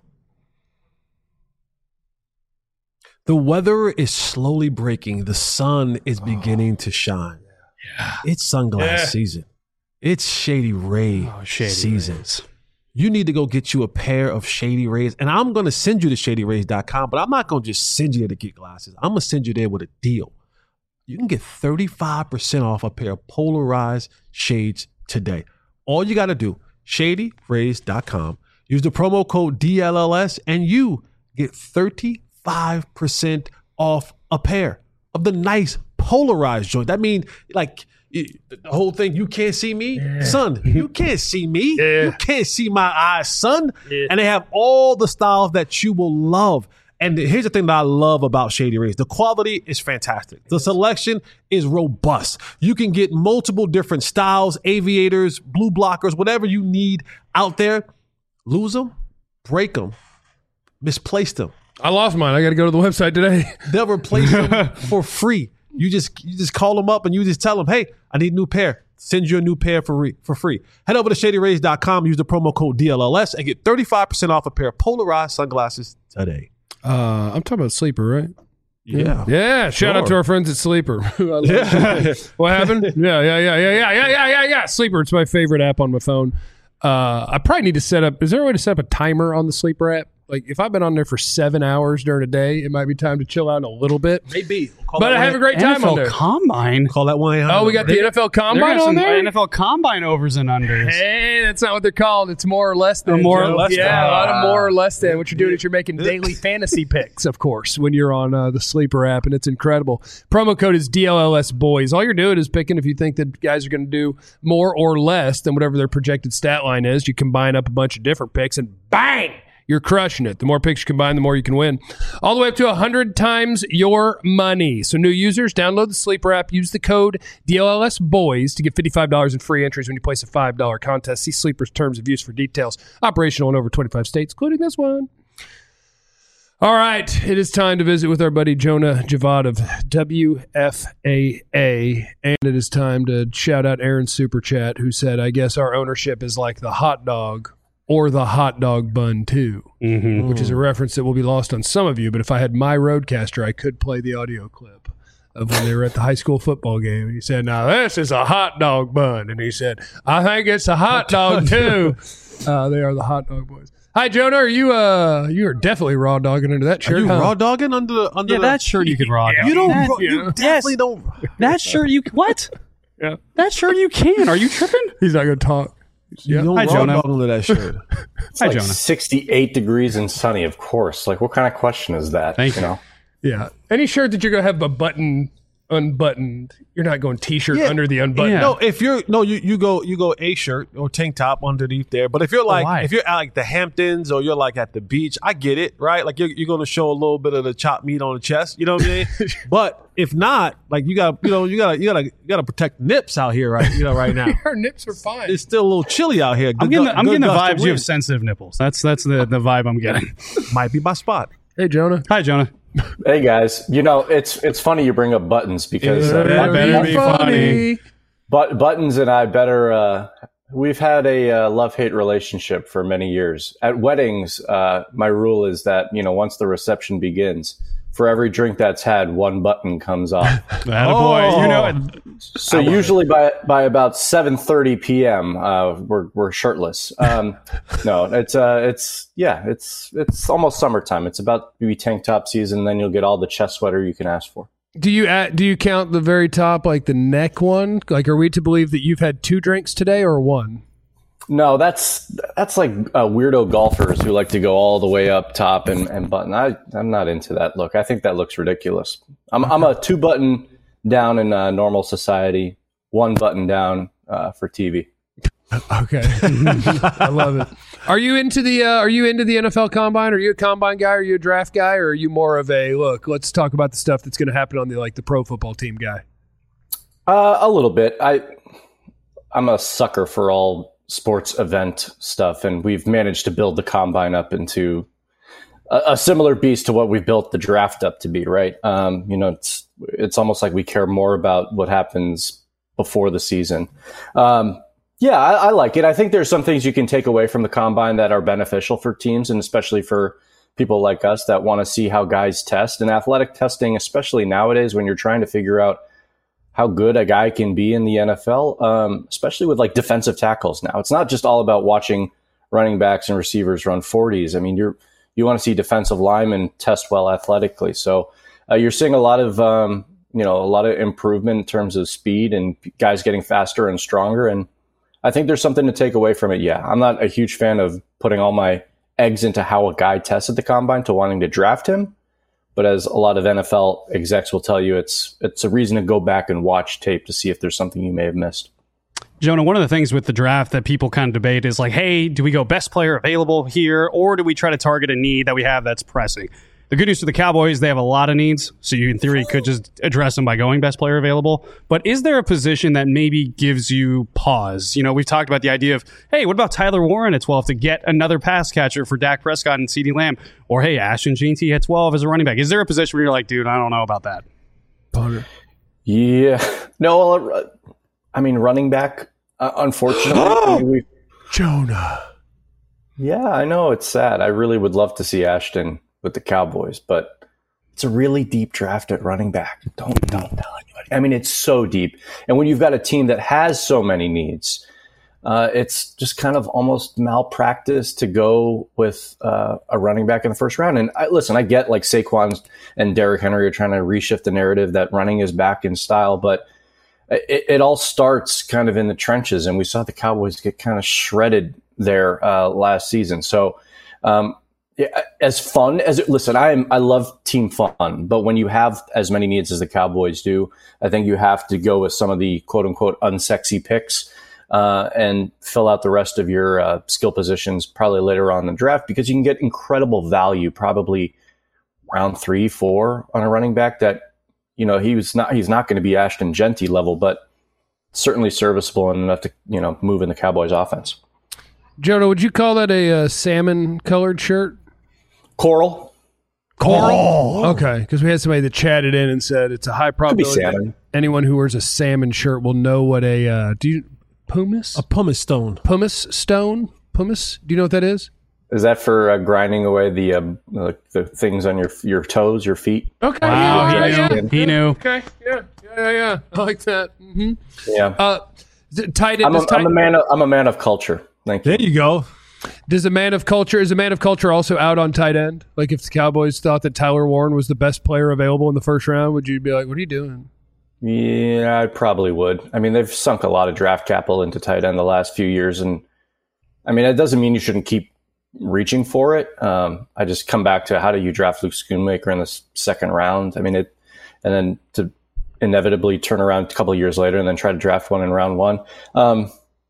The weather is slowly breaking. The sun is beginning to shine. Yeah. It's sunglass Yeah. season. It's Shady Ray Oh, Shady season. Rays. You need to go get you a pair of Shady Rays. And I'm going to send you to shady rays dot com, but I'm not going to just send you there to get glasses. I'm going to send you there with a deal. You can get thirty-five percent off a pair of polarized shades today. All you got to do, shady rays dot com, use the promo code D L L S, and you get thirty-five percent off a pair of the nice polarized joint. That means, like, it- the whole thing, you can't see me, son. You can't see me. Yeah. You can't see my eyes, son. Yeah. And they have all the styles that you will love. And here's the thing that I love about Shady Rays. The quality is fantastic. The selection is robust. You can get multiple different styles, aviators, blue blockers, whatever you need out there. Lose them, break them, misplace them. I lost mine. I got to go to the website today. They'll replace them for free. You just you just call them up and you just tell them, hey, I need a new pair. Send you a new pair for, re- for free. Head over to shady rays dot com, use the promo code D L L S, and get thirty-five percent off a pair of polarized sunglasses today. Uh, I'm talking about Sleeper, right? Yeah. Yeah, shout out Sure. to our friends at Sleeper. I love Yeah. it. What happened? Yeah, yeah, yeah, yeah, yeah, yeah, yeah, yeah, yeah. Sleeper, it's my favorite app on my phone. Uh, I probably need to set up, is there a way to set up a timer on the Sleeper app? Like, if I've been on there for seven hours during a day, it might be time to chill out a little bit. Maybe. Call But that I have a one- great time N F on L there. Combine. Call that one. Oh, we got the N F L They're Combine gonna have on some there? N F L Combine overs and unders. Hey, that's not what they're called. It's more or less than. Or more or Joe. less Yeah, than. a lot of more or less than. What you're doing is you're making daily fantasy picks, of course, when you're on uh, the Sleeper app, and it's incredible. Promo code is D L L S Boys. All you're doing is picking if you think that guys are going to do more or less than whatever their projected stat line is. You combine up a bunch of different picks, and bang! You're crushing it. The more picks you combine, the more you can win. All the way up to one hundred times your money. So new users, download the Sleeper app. Use the code D L L S Boys to get fifty-five dollars in free entries when you place a five dollar contest. See Sleeper's terms of use for details. Operational in over twenty-five states, including this one. All right. It is time to visit with our buddy Jonah Javad of W F A A. And it is time to shout out Aaron Super Chat, who said, I guess our ownership is like the hot dog or the hot dog bun too, Mm-hmm. which is a reference that will be lost on some of you. But if I had my Roadcaster, I could play the audio clip of when they were at the high school football game. And he said, now this is a hot dog bun. And he said, I think it's a hot dog too. Uh, they are the hot dog boys. Hi, Jonah. Are you, uh, you are definitely raw dogging into that shirt. Are you huh? raw dogging under the under Yeah, the, that shirt you could rock. You don't. That, raw- you definitely don't. that shirt you what? Yeah. That shirt you can. Are you tripping? He's not going to talk. You don't Hi, raw Jonah. dog under that shirt. Hi, like Jonah. sixty-eight degrees and sunny, of course. Like, what kind of question is that? Thank you. know? Yeah. Any shirt that you're going to have a button unbuttoned, you're not going T-shirt Yeah. under the unbuttoned. Yeah. No, if you're no, you, you go you go a shirt or tank top underneath there. But if you're like why? if you're at like the Hamptons or you're like at the beach, I get it, right? Like you're you're going to show a little bit of the chopped meat on the chest, you know what I mean? But if not, like you got you know you got to you got to you got to protect nips out here, right? You know, right now Our nips are fine. it's still a little chilly out here. I'm Good getting gu- the, I'm good getting the gust of vibes you have wind. sensitive nipples. That's that's the, the vibe I'm getting. Might be my spot. Hey, Jonah. Hi, Jonah. Hey guys, you know it's it's funny you bring up buttons because uh, Yeah, but- better be funny. but buttons and I better. Uh, we've had a uh, love-hate relationship for many years. At weddings, uh, my rule is that you know once the reception begins, for every drink that's had, one button comes off. That Oh. boy. You know it. So usually by by about seven thirty p.m. Uh, we're we're shirtless. Um, no, it's uh, it's yeah, it's it's almost summertime. It's about to be tank top season. Then you'll get all the chest sweater you can ask for. Do you add, do you count the very top, like the neck one? Like, are we to believe that you've had two drinks today or one? No, that's that's like uh, weirdo golfers who like to go all the way up top and, and button. I I'm not into that look. I think that looks ridiculous. I'm I'm a two button down in uh, normal society, one button down uh, for T V. Okay, I love it. Are you into the uh, Are you into the N F L Combine? Are you a Combine guy? Are you a draft guy? Or are you more of a look? Let's talk about the stuff that's going to happen on the like the pro football team guy. Uh, a little bit. I I'm a sucker for all sports event stuff, and we've managed to build the combine up into a, a similar beast to what we've built the draft up to be, right? Um, you know, it's it's almost like we care more about what happens before the season. Um, yeah, I, I like it. I think there's some things you can take away from the combine that are beneficial for teams, and especially for people like us that want to see how guys test. And athletic testing, especially nowadays when you're trying to figure out how good a guy can be in the N F L, um, especially with like defensive tackles now. It's not just all about watching running backs and receivers run forties. I mean, you're you want to see defensive linemen test well athletically. So uh, you're seeing a lot of um, you know a lot of improvement in terms of speed and guys getting faster and stronger. And I think there's something to take away from it. Yeah, I'm not a huge fan of putting all my eggs into how a guy tests at the combine to wanting to draft him. But as a lot of N F L execs will tell you, it's it's a reason to go back and watch tape to see if there's something you may have missed. Jonah, one of the things with the draft that people kind of debate is like, hey, do we go best player available here, or do we try to target a need that we have that's pressing? The good news for the Cowboys, they have a lot of needs, so you in theory could just address them by going best player available. But is there a position that maybe gives you pause? You know, we've talked about the idea of, hey, what about Tyler Warren at twelve to get another pass catcher for Dak Prescott and CeeDee Lamb? Or, hey, Ashton Jeanty at twelve as a running back. Is there a position where you're like, dude, I don't know about that? Yeah. No, uh, I mean, running back, uh, unfortunately. I mean, we, Jonah. yeah, I know. It's sad. I really would love to see Ashton with the Cowboys, but it's a really deep draft at running back. Don't don't tell anybody. I mean, it's so deep, and when you've got a team that has so many needs, uh, it's just kind of almost malpractice to go with uh, a running back in the first round. And I, listen, I get like Saquon and Derrick Henry are trying to reshift the narrative that running is back in style, but it, it all starts kind of in the trenches, and we saw the Cowboys get kind of shredded there uh, last season. So. Um, Yeah, as fun as it, listen, I am, I love team fun, but when you have as many needs as the Cowboys do, I think you have to go with some of the quote unquote unsexy picks, uh, and fill out the rest of your, uh, skill positions probably later on in the draft, because you can get incredible value, probably round three, four on a running back that, you know, he was not, he's not going to be Ashton Jeanty level, but certainly serviceable and enough to, you know, move in the Cowboys offense. Jonah, would you call that a uh, salmon colored shirt? Coral. Coral. Okay, because we had somebody that chatted in and said it's a high probability that anyone who wears a salmon shirt will know what a uh, do you pumice A pumice stone. pumice stone pumice. Do you know what that is? Is that for uh, grinding away the, uh, the the things on your your toes, your feet? Okay. Wow, yeah, he yeah, knew. yeah. He knew. Okay. Yeah. Yeah. Yeah. yeah. I like that. Mm-hmm. Yeah, Uh, th- tight end. I'm, a, does tight- I'm a man. Of, I'm a man of culture. Thank you. There you go. Does a man of culture is a man of culture also out on tight end? Like if the Cowboys thought that Tyler Warren was the best player available in the first round, would you be like, "What are you doing?" Yeah, I probably would. I mean, they've sunk a lot of draft capital into tight end the last few years, and I mean, it doesn't mean you shouldn't keep reaching for it. Um, I just come back to how do you draft Luke Schoonmaker in the s- second round? I mean, it, and then to inevitably turn around a couple of years later and then try to draft one in round one. Um,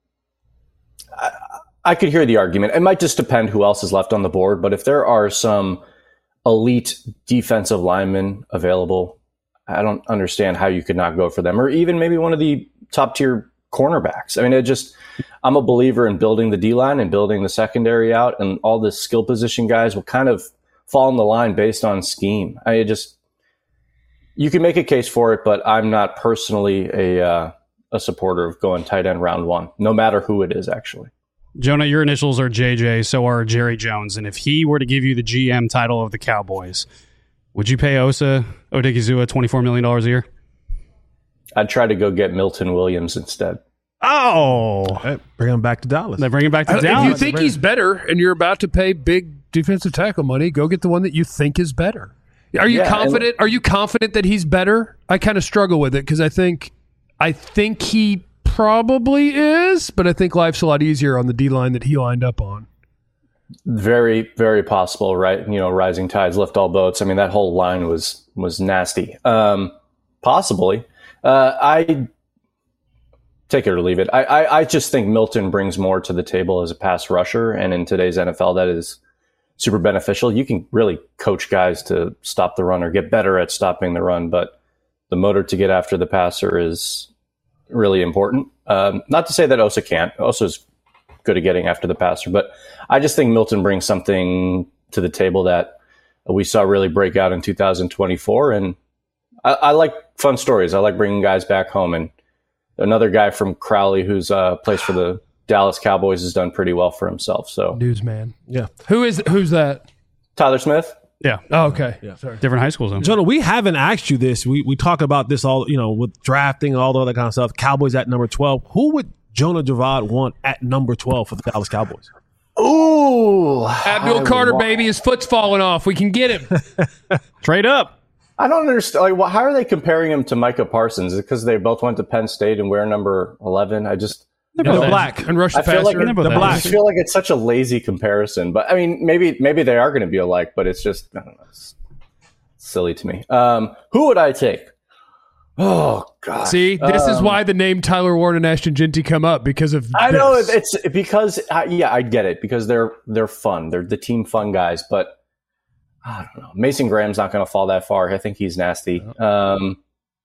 I, I could hear the argument. It might just depend who else is left on the board, but if there are some elite defensive linemen available, I don't understand how you could not go for them, or even maybe one of the top tier cornerbacks. I mean, it just, I'm a believer in building the D line and building the secondary out, and all the skill position guys will kind of fall in the line based on scheme. I just, you can make a case for it, but I'm not personally a, uh, a supporter of going tight end round one, no matter who it is, actually. Jonah, your initials are J J, so are Jerry Jones. And if he were to give you the G M title of the Cowboys, would you pay Osa Odigizua twenty-four million dollars a year? I'd try to go get Milton Williams instead. Oh, Hey, bring him back to Dallas. they bring him back to If you Dallas. think he's better and you're about to pay big defensive tackle money, go get the one that you think is better. Are you Yeah, confident? Are you confident that he's better? I kind of struggle with it because I think, I think he probably is, but I think life's a lot easier on the D line that he lined up on. Very, very possible, right? You know, rising tides lift all boats. I mean, that whole line was was nasty. Um, possibly. Uh, I take it or leave it. I, I, I just think Milton brings more to the table as a pass rusher, and in today's N F L, that is super beneficial. You can really coach guys to stop the run or get better at stopping the run, but the motor to get after the passer is really important. Um, not to say that Osa can't. Osa's good at getting after the passer, but I just think Milton brings something to the table that we saw really break out in two thousand twenty-four. And I, I like fun stories. I like bringing guys back home. And another guy from Crowley who's uh, plays for the Dallas Cowboys has done pretty well for himself. So Newsman. Yeah. Who is who's that? Tyler Smith. Yeah. Oh, okay. Yeah. Sorry. Different high schools. Though. Jonah, we haven't asked you this. We we talk about this all, you know, with drafting and all the other kind of stuff. Cowboys at number twelve. Who would Jonah Javad want at number twelve for the Dallas Cowboys? Ooh, Abdul I Carter, would wa- baby, his foot's falling off. We can get him. Trade up. I don't understand. Like, wh- how are they comparing him to Micah Parsons? Is it because they both went to Penn State and wear number eleven? I just, The black. And rush the I feel like passer. it- both The have. I black. just feel like it's such a lazy comparison. But I mean, maybe maybe they are going to be alike, but it's just I don't know. It's silly to me. Um, who would I take? Oh God! See, this is Um, why the name Tyler Warren and Ashton Ginty come up because of I know this. it's because uh, yeah, I get it because they're they're fun. They're the team fun guys, but I don't know. Mason Graham's not going to fall that far. I think he's nasty. Um,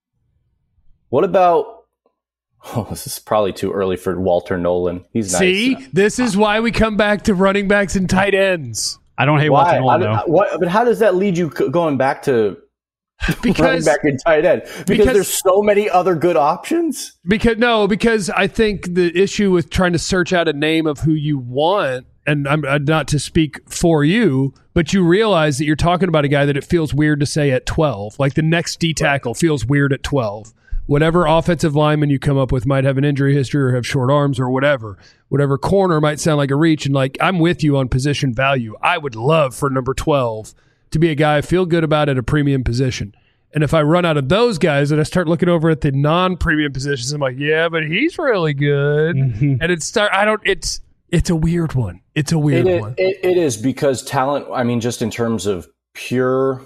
what about? Oh, this is probably too early for Walter Nolan. He's nice. See, this is why we come back to running backs and tight ends I don't hate Why? Walter Nolan, How though. do- what, but how does that lead you c- going back to running because back in tight end? Because, because- there's so many other good options. because no, because I think the issue with trying to search out a name of who you want, and I'm uh, not to speak for you, but you realize that you're talking about a guy that it feels weird to say at twelve. Like the next D tackle feels weird at twelve. Whatever offensive lineman you come up with might have an injury history or have short arms or whatever. Whatever corner might sound like a reach. And like, I'm with you on position value. I would love for number twelve to be a guy I feel good about at a premium position. And if I run out of those guys and I start looking over at the non-premium positions, I'm like, yeah, but he's really good. And it's start. I don't. It's it's a weird one. It's a weird It is, one. it, it is because talent, I mean, just in terms of pure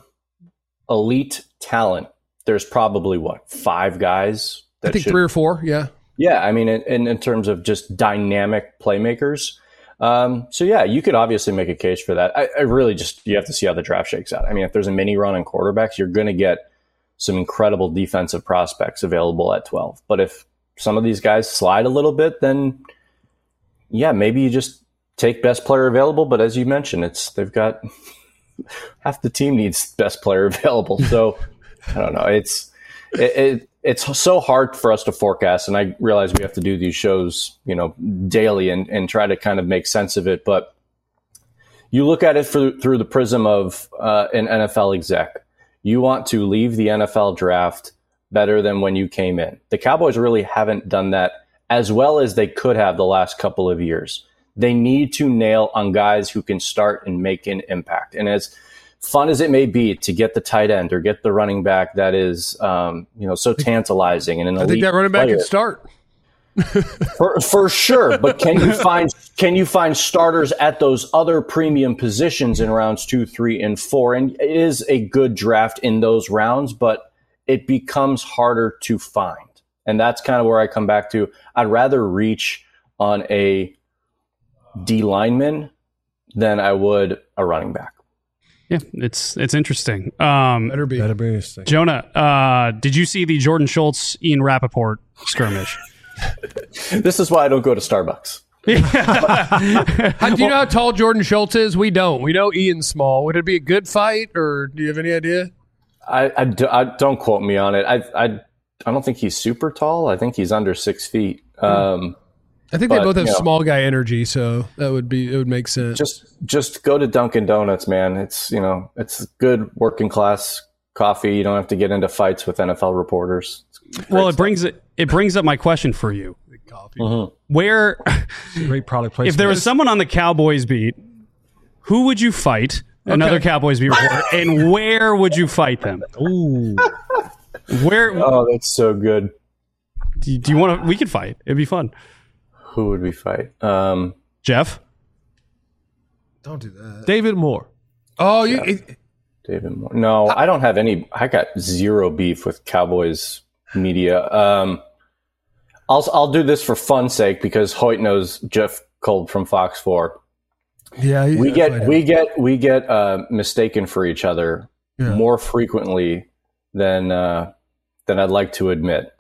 elite talent, there's probably what, five guys that I think should, three or four. Yeah. yeah, I mean, in, in, in terms of just dynamic playmakers. Um, so yeah, you could obviously make a case for that. I, I really just, you have to see how the draft shakes out. I mean, if there's a mini run on quarterbacks, you're going to get some incredible defensive prospects available at twelve. But if some of these guys slide a little bit, then yeah, maybe you just take best player available. But as you mentioned, it's, they've got half the team needs best player available. So I don't know. It's, it, it, it's so hard for us to forecast. And I realize we have to do these shows, you know, daily and, and try to kind of make sense of it. But you look at it through, through the prism of uh, an N F L exec. You want to leave the N F L draft better than when you came in. The Cowboys really haven't done that as well as they could have the last couple of years. They need to nail on guys who can start and make an impact. And as fun as it may be to get the tight end or get the running back that is, um, you know, so tantalizing and an elite I think that running back player, can start. for, for sure. But can you find can you find starters at those other premium positions in rounds two, three, and four? And it is a good draft in those rounds, but it becomes harder to find. And that's kind of where I come back to. I'd rather reach on a D lineman than I would a running back. Yeah, it's it's interesting. Um, Better be. That'd be interesting. Jonah, uh, did you see the Jordan Schultz, Ian Rappaport skirmish? This is why I don't go to Starbucks. How, do you know how tall Jordan Schultz is? We don't. We know Ian's small. Would it be a good fight, or do you have any idea? I, I, do- I don't quote me on it. I, I I don't think he's super tall. I think he's under six feet. Um, I think But, they both have you know. small guy energy, so that would be it would make sense. just just go to Dunkin' Donuts, man. It's you know it's good working class coffee. You don't have to get into fights with N F L reporters. It's great Well, it stuff. brings it it brings up my question for you. Mhm. Where, Great product placement. if there was someone on the Cowboys beat, who would you fight? Another Cowboys beat reporter, and where would you fight them? Ooh. Where Oh, that's so good. do you, do you want to? We could fight. It'd be fun. Who would we fight? Um, Jeff, Don't do that. David Moore. Oh, you. It, David Moore. No, I don't have any. I got zero beef with Cowboys media. Um, I'll I'll do this for fun's sake because Hoyt knows Jeff Kolb from Fox four. yeah, We yeah, get fight we him. get we get uh, mistaken for each other Yeah. more frequently than uh, than I'd like to admit.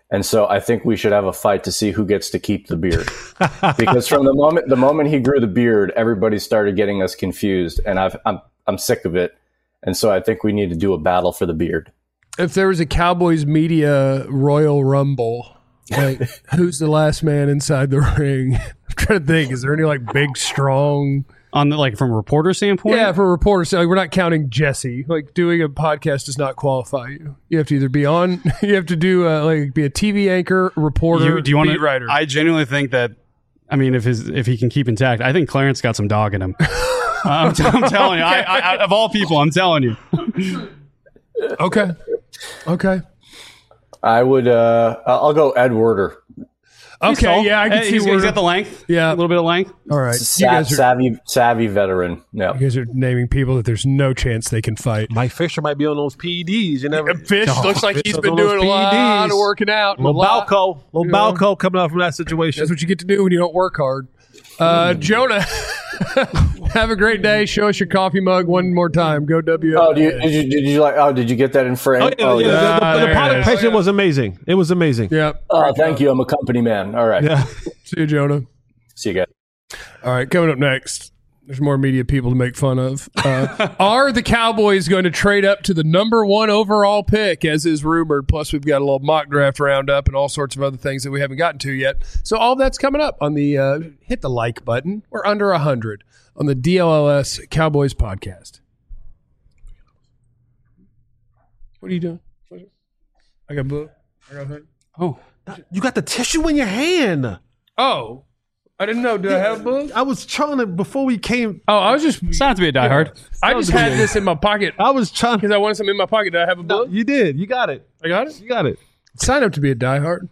And so I think we should have a fight to see who gets to keep the beard. Because from the moment the moment he grew the beard, everybody started getting us confused, and I've, I'm I'm sick of it. And so I think we need to do a battle for the beard. If there was a Cowboys media Royal Rumble, like who's the last man inside the ring? I'm trying to think. Is there any like big, strong? On the like from a reporter standpoint? Yeah, for a reporter, so like, we're not counting Jesse. Like doing a podcast does not qualify you. You have to either be on, you have to do uh, like be a T V anchor, reporter, You, do you want beat to? writer. I genuinely think that. I mean, if his if he can keep intact, I think Clarence got some dog in him. I'm, t- I'm telling you, I, I, I, of all people, I'm telling you. Okay, okay, I would. Uh, I'll go Ed Werder. okay. tall. Yeah, I can Hey, see he's, where. he's got the length. Yeah. a little bit of length. All right, Sa- you guys are savvy, savvy veteran. No. you guys are naming people that there's no chance they can fight. Mike Fisher might be on those P E Ds. You never. Fish looks like Fish he's is been on those doing a lot P E Ds. of working out. Little a lot. Balco, little You know. Balco coming out from that situation. That's what you get to do when you don't work hard. Uh, Jonah, have a great day. Show us your coffee mug one more time. Go W. Oh, do you, did you did you like? Oh, did you get that in frame? Oh, yeah, oh, yeah, yeah. the, Ah, the, there the it product is. placement was amazing. It was amazing. Yeah. Oh, thank you. I'm a company man. All right. Yeah. See you, Jonah. See you guys. All right, coming up next, there's more media people to make fun of. Uh, are the Cowboys going to trade up to the number one overall pick, as is rumored? Plus, we've got a little mock draft roundup and all sorts of other things that we haven't gotten to yet. So all that's coming up on the uh, hit the like button. We're under one hundred on the D L L S Cowboys podcast. What are you doing? I got blue. I got blue. Oh, You got the tissue in your hand. Oh, I didn't know. Did I have blue? I was trying to, before we came, Oh, I was just. it's not to be a diehard. I just had this in my pocket I was trying because I wanted something in my pocket. Did I have a blue? You did. You got it. I got it. You got it. Sign up to be a diehard.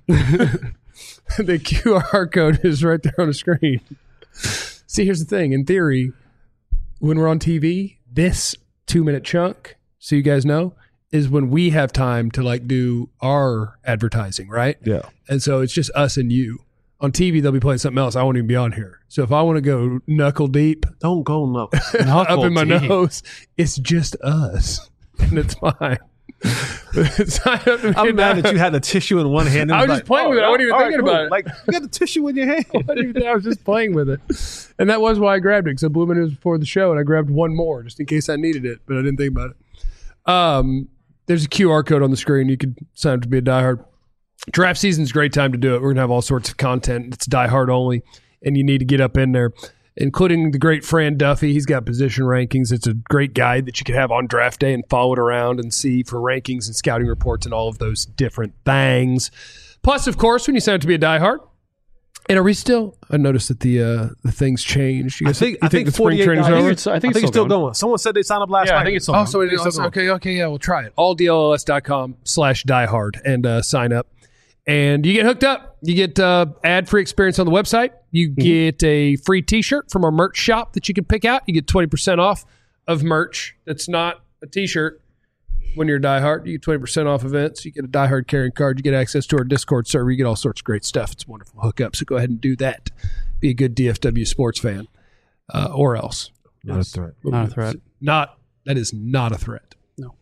The Q R code is right there on the screen. See, here's the thing. In theory, when we're on T V, this two minute chunk, so you guys know, is when we have time to like do our advertising, right? Yeah. And so it's just us and you. On T V, they'll be playing something else. I won't even be on here. So if I want to go knuckle deep Don't go no. up in my deep. nose, it's just us. And it's fine. Sign up to be a I'm mad that diehard. you had the tissue in one hand. and I was like, just playing with it. I wasn't even all right, thinking cool. about it. Like, you got the tissue in your hand. I didn't even- I was just playing with it. And that was why I grabbed it, because I blew my nose before the show, and I grabbed one more just in case I needed it, but I didn't think about it. Um, there's a Q R code on the screen. You could sign up to be a diehard. Draft season's a great time to do it. We're going to have all sorts of content. It's diehard only, and you need to get up in there, including the great Fran Duffy. He's got position rankings. It's a great guide that you could have on draft day and follow it around and see for rankings and scouting reports and all of those different things. Plus, of course, when you sign up to be a diehard, and are we still? I noticed that the uh, the things changed. You I guys- think, you I think the spring forty-eight training's guys- over? it's- I I think think it's it's still still going. Someone said they signed up last Yeah, night. I think it's still Oh, going. so it It's still is. going. Okay, okay, yeah, we'll try it. all D L L S dot com slash diehard and uh, sign up. And you get hooked up. You get uh, ad-free experience on the website. You get a free T-shirt from our merch shop that you can pick out. You get twenty percent off of merch that's not a T-shirt when you're a diehard. You get twenty percent off events. You get a diehard carrying card. You get access to our Discord server. You get all sorts of great stuff. It's a wonderful hookup. So go ahead and do that. Be a good D F W sports fan uh, or else. Not a threat. Not a threat. Not that is not a threat. No.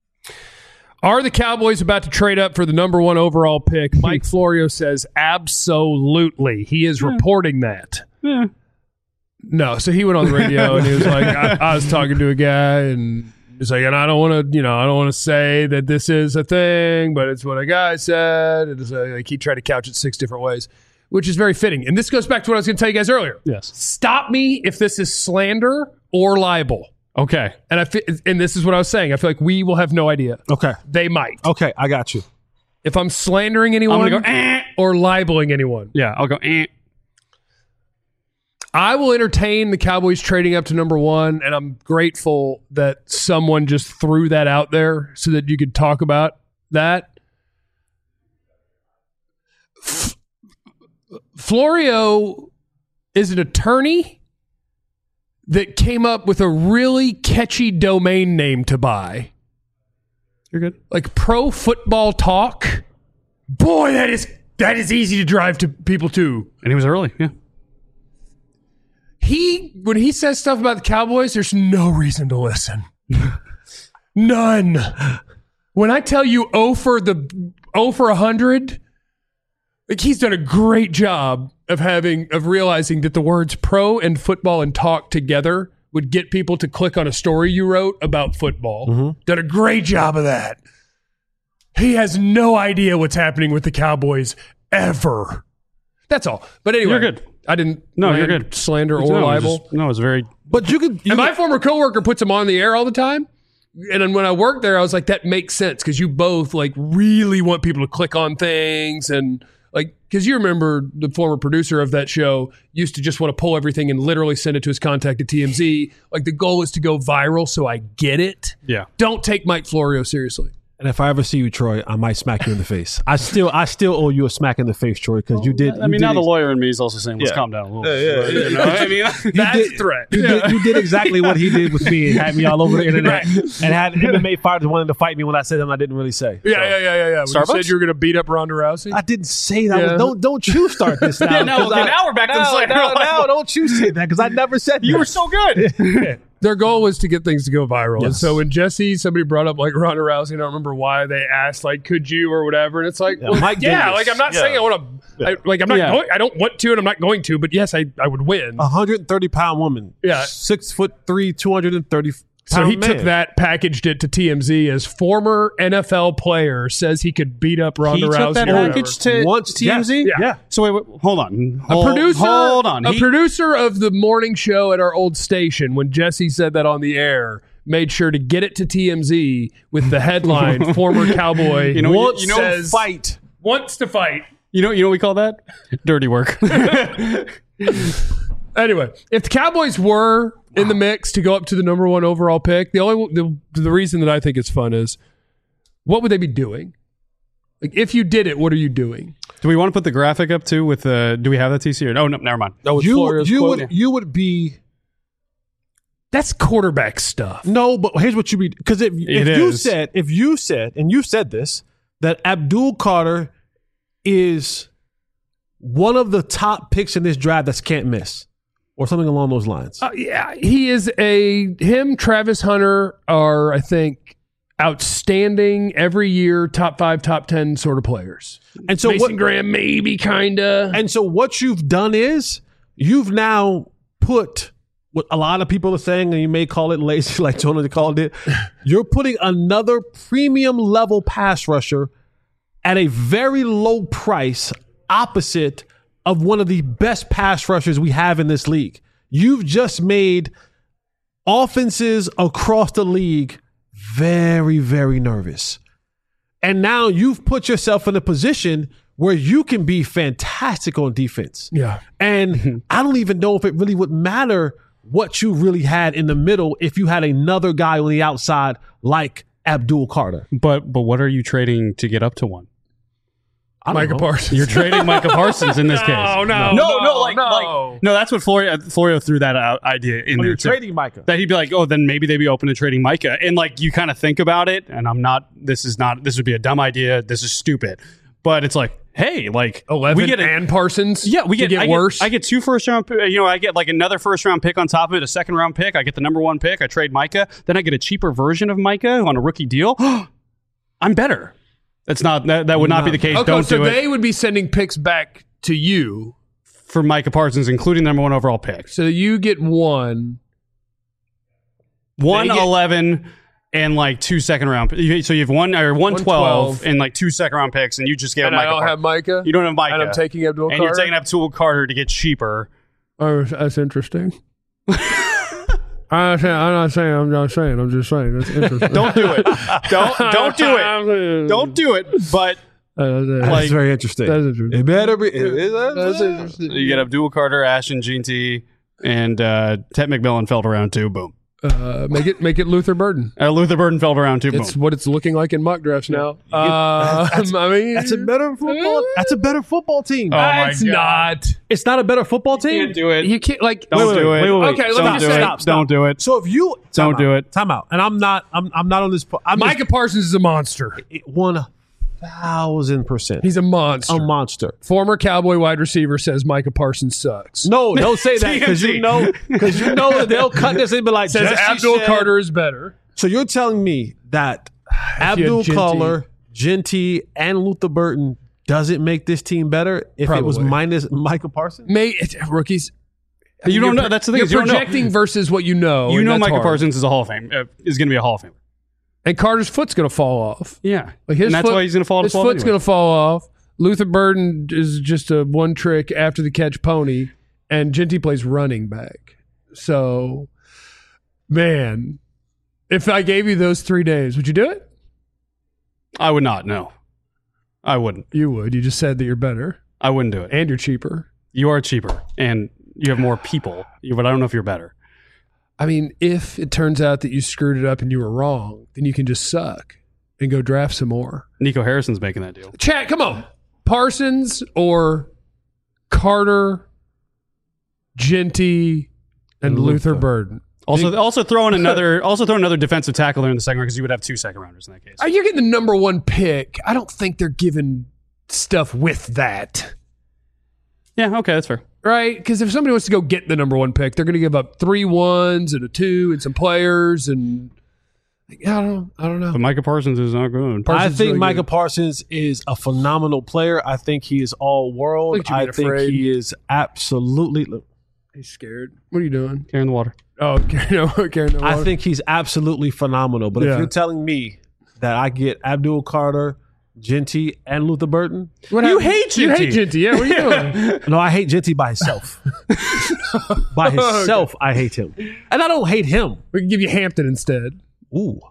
Are the Cowboys about to trade up for the number one overall pick? Mike Florio says absolutely. He is reporting that. Yeah. No, so he went on the radio and he was like, I, I was talking to a guy and he's like, and I don't want to, you know, I don't want to say that this is a thing, but it's what a guy said. And it's like he tried to couch it six different ways, which is very fitting. And this goes back to what I was going to tell you guys earlier. Yes. Stop me if this is slander or libel. Okay. And I fe- and this is what I was saying. I feel like we will have no idea. Okay. They might. Okay. I got you. If I'm slandering anyone I'm gonna go, eh. or libeling anyone, Yeah, I'll go. Eh. I will entertain the Cowboys trading up to number one, and I'm grateful that someone just threw that out there so that you could talk about that. F- Florio is an attorney that came up with a really catchy domain name to buy. You're good. Like Pro Football Talk. Boy, that is that is easy to drive to people to. And he was early. Yeah. He when he says stuff about the Cowboys, there's no reason to listen. None. When I tell you oh for the oh for a hundred Like he's done a great job of having of realizing that the words pro and football and talk together would get people to click on a story you wrote about football. Mm-hmm. Done a great job of that. He has no idea what's happening with the Cowboys ever. That's all. But anyway, you're good. I didn't. No, I you're didn't good. Slander or no, it was libel. just- no, it's very. But you could. You And my could- former coworker puts him on the air all the time. And then when I worked there, I was like, that makes sense because you both like really want people to click on things and like because you remember the former producer of that show used to just want to pull everything and literally send it to his contact at T M Z. Like the goal is to go viral, so I get it. Yeah. Don't take Mike Florio seriously. And if I ever see you, Troy, I might smack you in the face. I still, I still owe you a smack in the face, Troy, because you did. I you mean, did now the ex- lawyer in me is also saying, let's Yeah. calm down a little Yeah, bit. yeah, You know what I mean? That's did- a threat. You, did, you did exactly what he did with me and had me all over the internet and had M M A fighters wanting to fight me when I said something I didn't really say. Yeah, yeah, yeah, yeah, yeah. When you Starbucks? said you were going to beat up Ronda Rousey. I didn't say that. Yeah. Don't don't you start this now? Yeah, now- 'cause okay, I- now we're back to the now, slander now, libel. now, don't you say that because I never said You that. were so good. Their goal was to get things to go viral. And Yes. so when Jesse, somebody brought up like Ronda Rousey, I don't remember why they asked like, could you or whatever. And it's like, Yeah, well, Mike yeah, Davis. like I'm not Yeah. saying I want to, I, like I'm not Yeah. going, I don't want to and I'm not going to, but yes, I, I would win. A hundred and thirty pound woman. Yeah. six foot three, two hundred and thirty. So he man. took that, packaged it to T M Z as former N F L player says he could beat up Ronda He Rousey. took that or whatever. package to Once- T M Z? yeah, yeah. So wait, wait, hold on. A Hold, producer, Hold on. a He- producer of the morning show at our old station, when Jesse said that on the air, made sure to get it to T M Z with the headline: "Former Cowboy You know- wants you know- says, Fight. wants to fight." You know, you know what we call that? Dirty work. Anyway, if the Cowboys were in the mix to go up to the number one overall pick, the only the, the reason that I think it's fun is what would they be doing? Like, if you did it, what are you doing? Do we want to put the graphic up too? With uh, do we have that T C or no? No, never mind. You, you would you would be That's quarterback stuff. no, but here's what you be because if, if It you is. said if you said and you said this that Abdul Carter is one of the top picks in this draft that's can't miss or something along those lines. Uh, yeah, he is a him. Travis Hunter are I think outstanding every year, top five, top ten sort of players. And so Mason what, Graham, maybe kinda. and so what you've done is you've now put what a lot of people are saying, and you may call it lazy, like Jonah called it. You're putting another premium level pass rusher at a very low price, opposite of one of the best pass rushers we have in this league. You've just made offenses across the league very, very nervous. And now you've put yourself in a position where you can be fantastic on defense. Yeah. And I don't even know if it really would matter what you really had in the middle if you had another guy on the outside like Abdul Carter. But but what are you trading to get up to one? I don't Micah know. Parsons. You're trading Micah Parsons in this case. No, no, no, no, like, no. like no. That's what Florio, Florio threw that out, idea in Oh, there you're too. trading Micah. That he'd be like, oh, then maybe they'd be open to trading Micah, and like you kind of think about it, and I'm not. This is not. This would be a dumb idea. This is stupid. But it's like, hey, like eleven we get a, and Parsons. yeah, we to get, get I worse. Get, I get two first round. You know, I get like another first round pick on top of it, a second round pick. I get the number one pick. I trade Micah. Then I get a cheaper version of Micah on a rookie deal. I'm better. That's not that. That would not be the case. okay, Don't so do it they would be sending picks back to you, for Micah Parsons, including the number one overall pick. so you get one. One They get- eleven and like two second round. you- So you have one or one twelve one twelve. and like two second round picks, and you just gave And Micah. I don't Parsons. have Micah. You don't have Micah. And I'm taking Abdul and Carter. you're taking Abdul Carter to get cheaper. Oh, that's interesting. I'm not saying. I'm not saying. I'm not saying. I'm just saying. That's interesting. Don't do it. don't don't do it. Don't do it. But Uh, that's, That's like- very interesting. that's interesting. It better be. It is, That's interesting. you get Abdul Carter, Ashton Jeanty, and uh, Ted McMillan fell to round two. Boom. Uh, make it make it Luther Burden. Uh, Luther Burden fell to round two. It's Boom. what it's looking like in mock drafts now. Uh, I mean, That's a better football. That's a better football team. Oh, my it's God. not. It's not a better football team. Can't do it. You can't like. Don't wait, do wait, it. wait, wait, wait. Okay, let me Don't just do say- it. Stop, stop. Don't do it. So if you Don't time do out, it. Time out. And I'm not. I'm. I'm not on this. po- I'm Micah Parsons is a monster. just one thousand percent. He's a monster. a monster. Former Cowboy wide receiver says Micah Parsons sucks. No, don't say that because you know because you know that they'll cut this and be like Says Jesse Abdul said- Carter is better. So you're telling me that Abdul Genty. Carter, Genty, and Luther Burton Does it make this team better if it was Probably. minus Micah Parsons? May it, rookies. You You're don't know. pro- That's the thing. You're is you don't know. projecting versus what you know. You and know, that's Micah hard. Parsons is a Hall of Fame. Uh, is going to be a Hall of Famer. And Carter's foot's going to fall off. Yeah, Like his and that's foot- why he's going to fall. His to twelve foot's anyway. going to fall off. Luther Burden is just a one trick after the catch pony, and Genty plays running back. So, man, if I gave you those three days, would you do it? I would not. No, I wouldn't. You would. You just said that you're better I wouldn't do it. and you're cheaper. You are cheaper, and you have more people. You- But I don't know if you're better. I mean, if it turns out that you screwed it up and you were wrong, then you can just suck and go draft some more. Nico Harrison's making that deal. Chat, come on. Parsons or Carter, Genty, and Luther, Luther. Burden. Also, also throw in another, also throw another defensive tackle there in the second round because you would have two second rounders in that case. Uh, You're getting the number one pick. I don't think they're giving stuff with that, Yeah, okay, that's fair. right? Because if somebody wants to go get the number one pick, they're going to give up three ones and a two and some players and I don't know. I don't know. But Micah Parsons is not good. Parsons I is think really Micah good. Parsons is a phenomenal player. I think he is all world. Look at you I being think afraid. he is absolutely. look, He's scared. What are you doing? Carrying the water. Oh, carrying no, carrying no I water. think he's absolutely phenomenal. But Yeah. if you're telling me that I get Abdul Carter, Genty, and Luther Burton, What You happened? hate You Genty. hate Genty. Yeah, what are you doing? no, I hate Genty by himself. by himself, I hate him, and I don't hate him. We can give you Hampton instead. Ooh,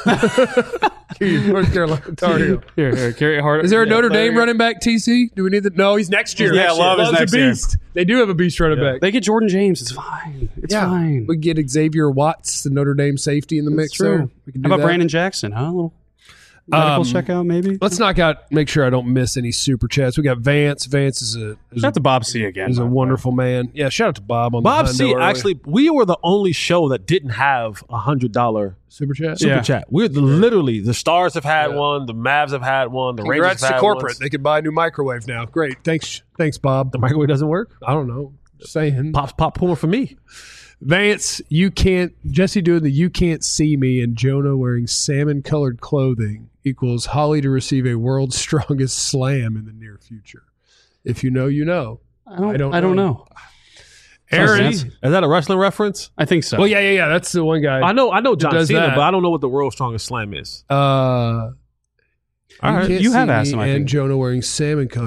North Carolina Tar Heel. Here, here, carry it hard. Is there a Yeah, Notre there Dame you go. running back, T C? Do we need that? No, he's next year. Yeah, Next Love year. is Love's next a year. beast. They do have a beast running back. They get Jordan James. It's fine. It's fine. We can get Xavier Watts, the Notre Dame safety, in the mix. It's true. There. We can do How about that. Brandon Jackson? Huh? A little medical Um, checkout, maybe. Let's knock out. Make sure I don't miss any super chats. We got Vance. Vance is a is Shout a, out to Bob C again. is a by the way. wonderful man. Yeah, shout out to Bob on Bob the C. Hundo early. Actually, we were the only show that didn't have a hundred dollar super chat. super Yeah. chat. We're the, literally the Stars have had one, the Mavs have had one, the Congrats Rangers have to had corporate. ones. They could buy a new microwave now. Great. Thanks. Thanks, Bob. The microwave doesn't work. I don't know. Just saying. Pops popcorn for me. Vance, you can't. Jesse doing the "you can't see me" and Jonah wearing salmon-colored clothing equals Holly to receive a world's strongest slam in the near future. If you know, you know. I don't, I don't I don't know. know. Aaron. Is Is that a wrestling reference? I think so. Well, yeah, yeah, yeah. That's the one guy. I know, I know John does Cena, that. but I don't know what the world's strongest slam is. Uh, All right, can't you see have asked me him, I and think. Jonah wearing salmon color.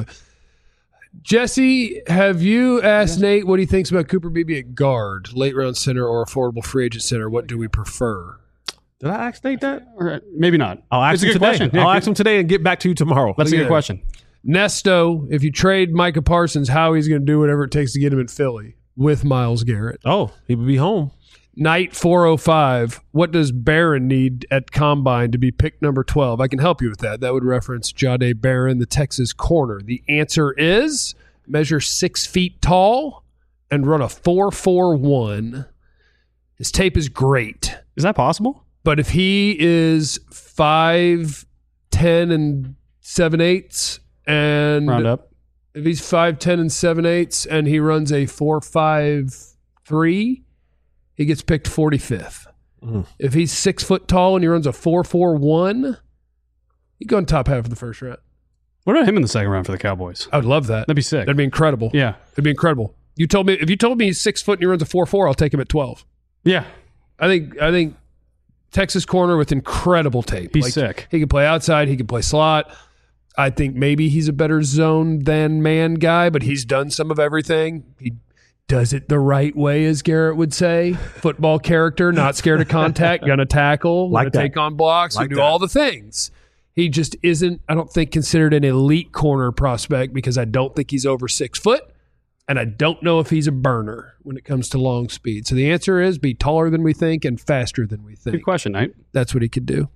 Jesse, have you asked Nate what he thinks about Cooper Beebe at guard, late round center, or affordable free agent center? What do we prefer? Did I ask Nate that? All right, maybe not. I'll ask it's him a good today. question. Yeah, I'll good- ask him today and get back to you tomorrow. That's a Look good at question. Nesto, if you trade Micah Parsons, how he's going to do whatever it takes to get him in Philly with Myles Garrett. Oh, he would be home. Night four oh five, what does Barron need at Combine to be pick number twelve? I can help you with that. That would reference Jahdae Barron, the Texas corner. The answer is measure six feet tall and run a four four one. His tape is great. Is that possible? But if he is five ten and seven eighths and Round up. if he's five ten and seven eighths and he runs a four five three, he gets picked forty-fifth. Mhm. If he's six foot tall and he runs a four four one, he'd go in top half of the first round. What about him in the second round for the Cowboys? I would love that. That'd be sick. That'd be incredible. Yeah. It'd be incredible. You told me if you told me he's six foot and he runs a four four, I'll take him at twelve. Yeah. I think I think Texas corner with incredible tape. He's sick. He can play outside. He can play slot. I think maybe he's a better zone than man guy, but he's done some of everything. He does it the right way, as Garrett would say. Football character, not scared of contact, gonna tackle, Like gonna that. take on blocks, Like we do that. all the things. He just isn't, I don't think, considered an elite corner prospect because I don't think he's over six foot. And I don't know if he's a burner when it comes to long speed. So the answer is be taller than we think and faster than we think. Good question, Knight. That's what he could do.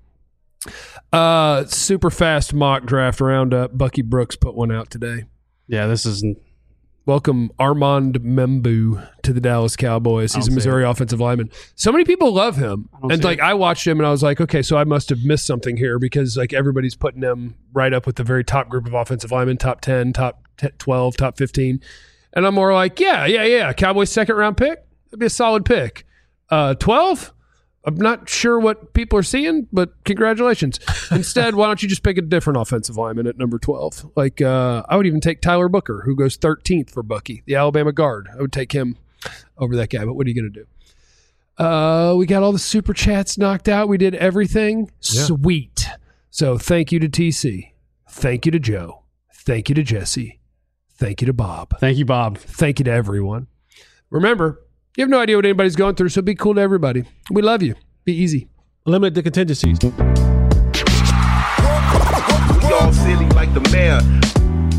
Uh, super fast mock draft roundup. Bucky Brooks put one out today. Yeah, this is Welcome Armand Membu to the Dallas Cowboys. He's a I'll say Missouri offensive lineman. So many people love him. don't And see like it. I watched him and I was like, okay, so I must have missed something here because like everybody's putting him right up with the very top group of offensive linemen, top ten, top twelve, top fifteen. And I'm more like, yeah, yeah, yeah. Cowboys second round pick. That'd be a solid pick. Uh, twelve? I'm not sure what people are seeing, but congratulations. Instead, why don't you just pick a different offensive lineman at number twelve? Like, uh, I would even take Tyler Booker, who goes thirteenth for Bucky, the Alabama guard. I would take him over that guy, but what are you going to do? Uh, we got all the super chats knocked out. We did everything. Yeah. Sweet. So thank you to T C. Thank you to Joe. Thank you to Jesse. Thank you to Bob. Thank you, Bob. Thank you to everyone. Remember, you have no idea what anybody's going through, so be cool to everybody. We love you. Be easy. Limit the contingencies. We all silly like the mayor.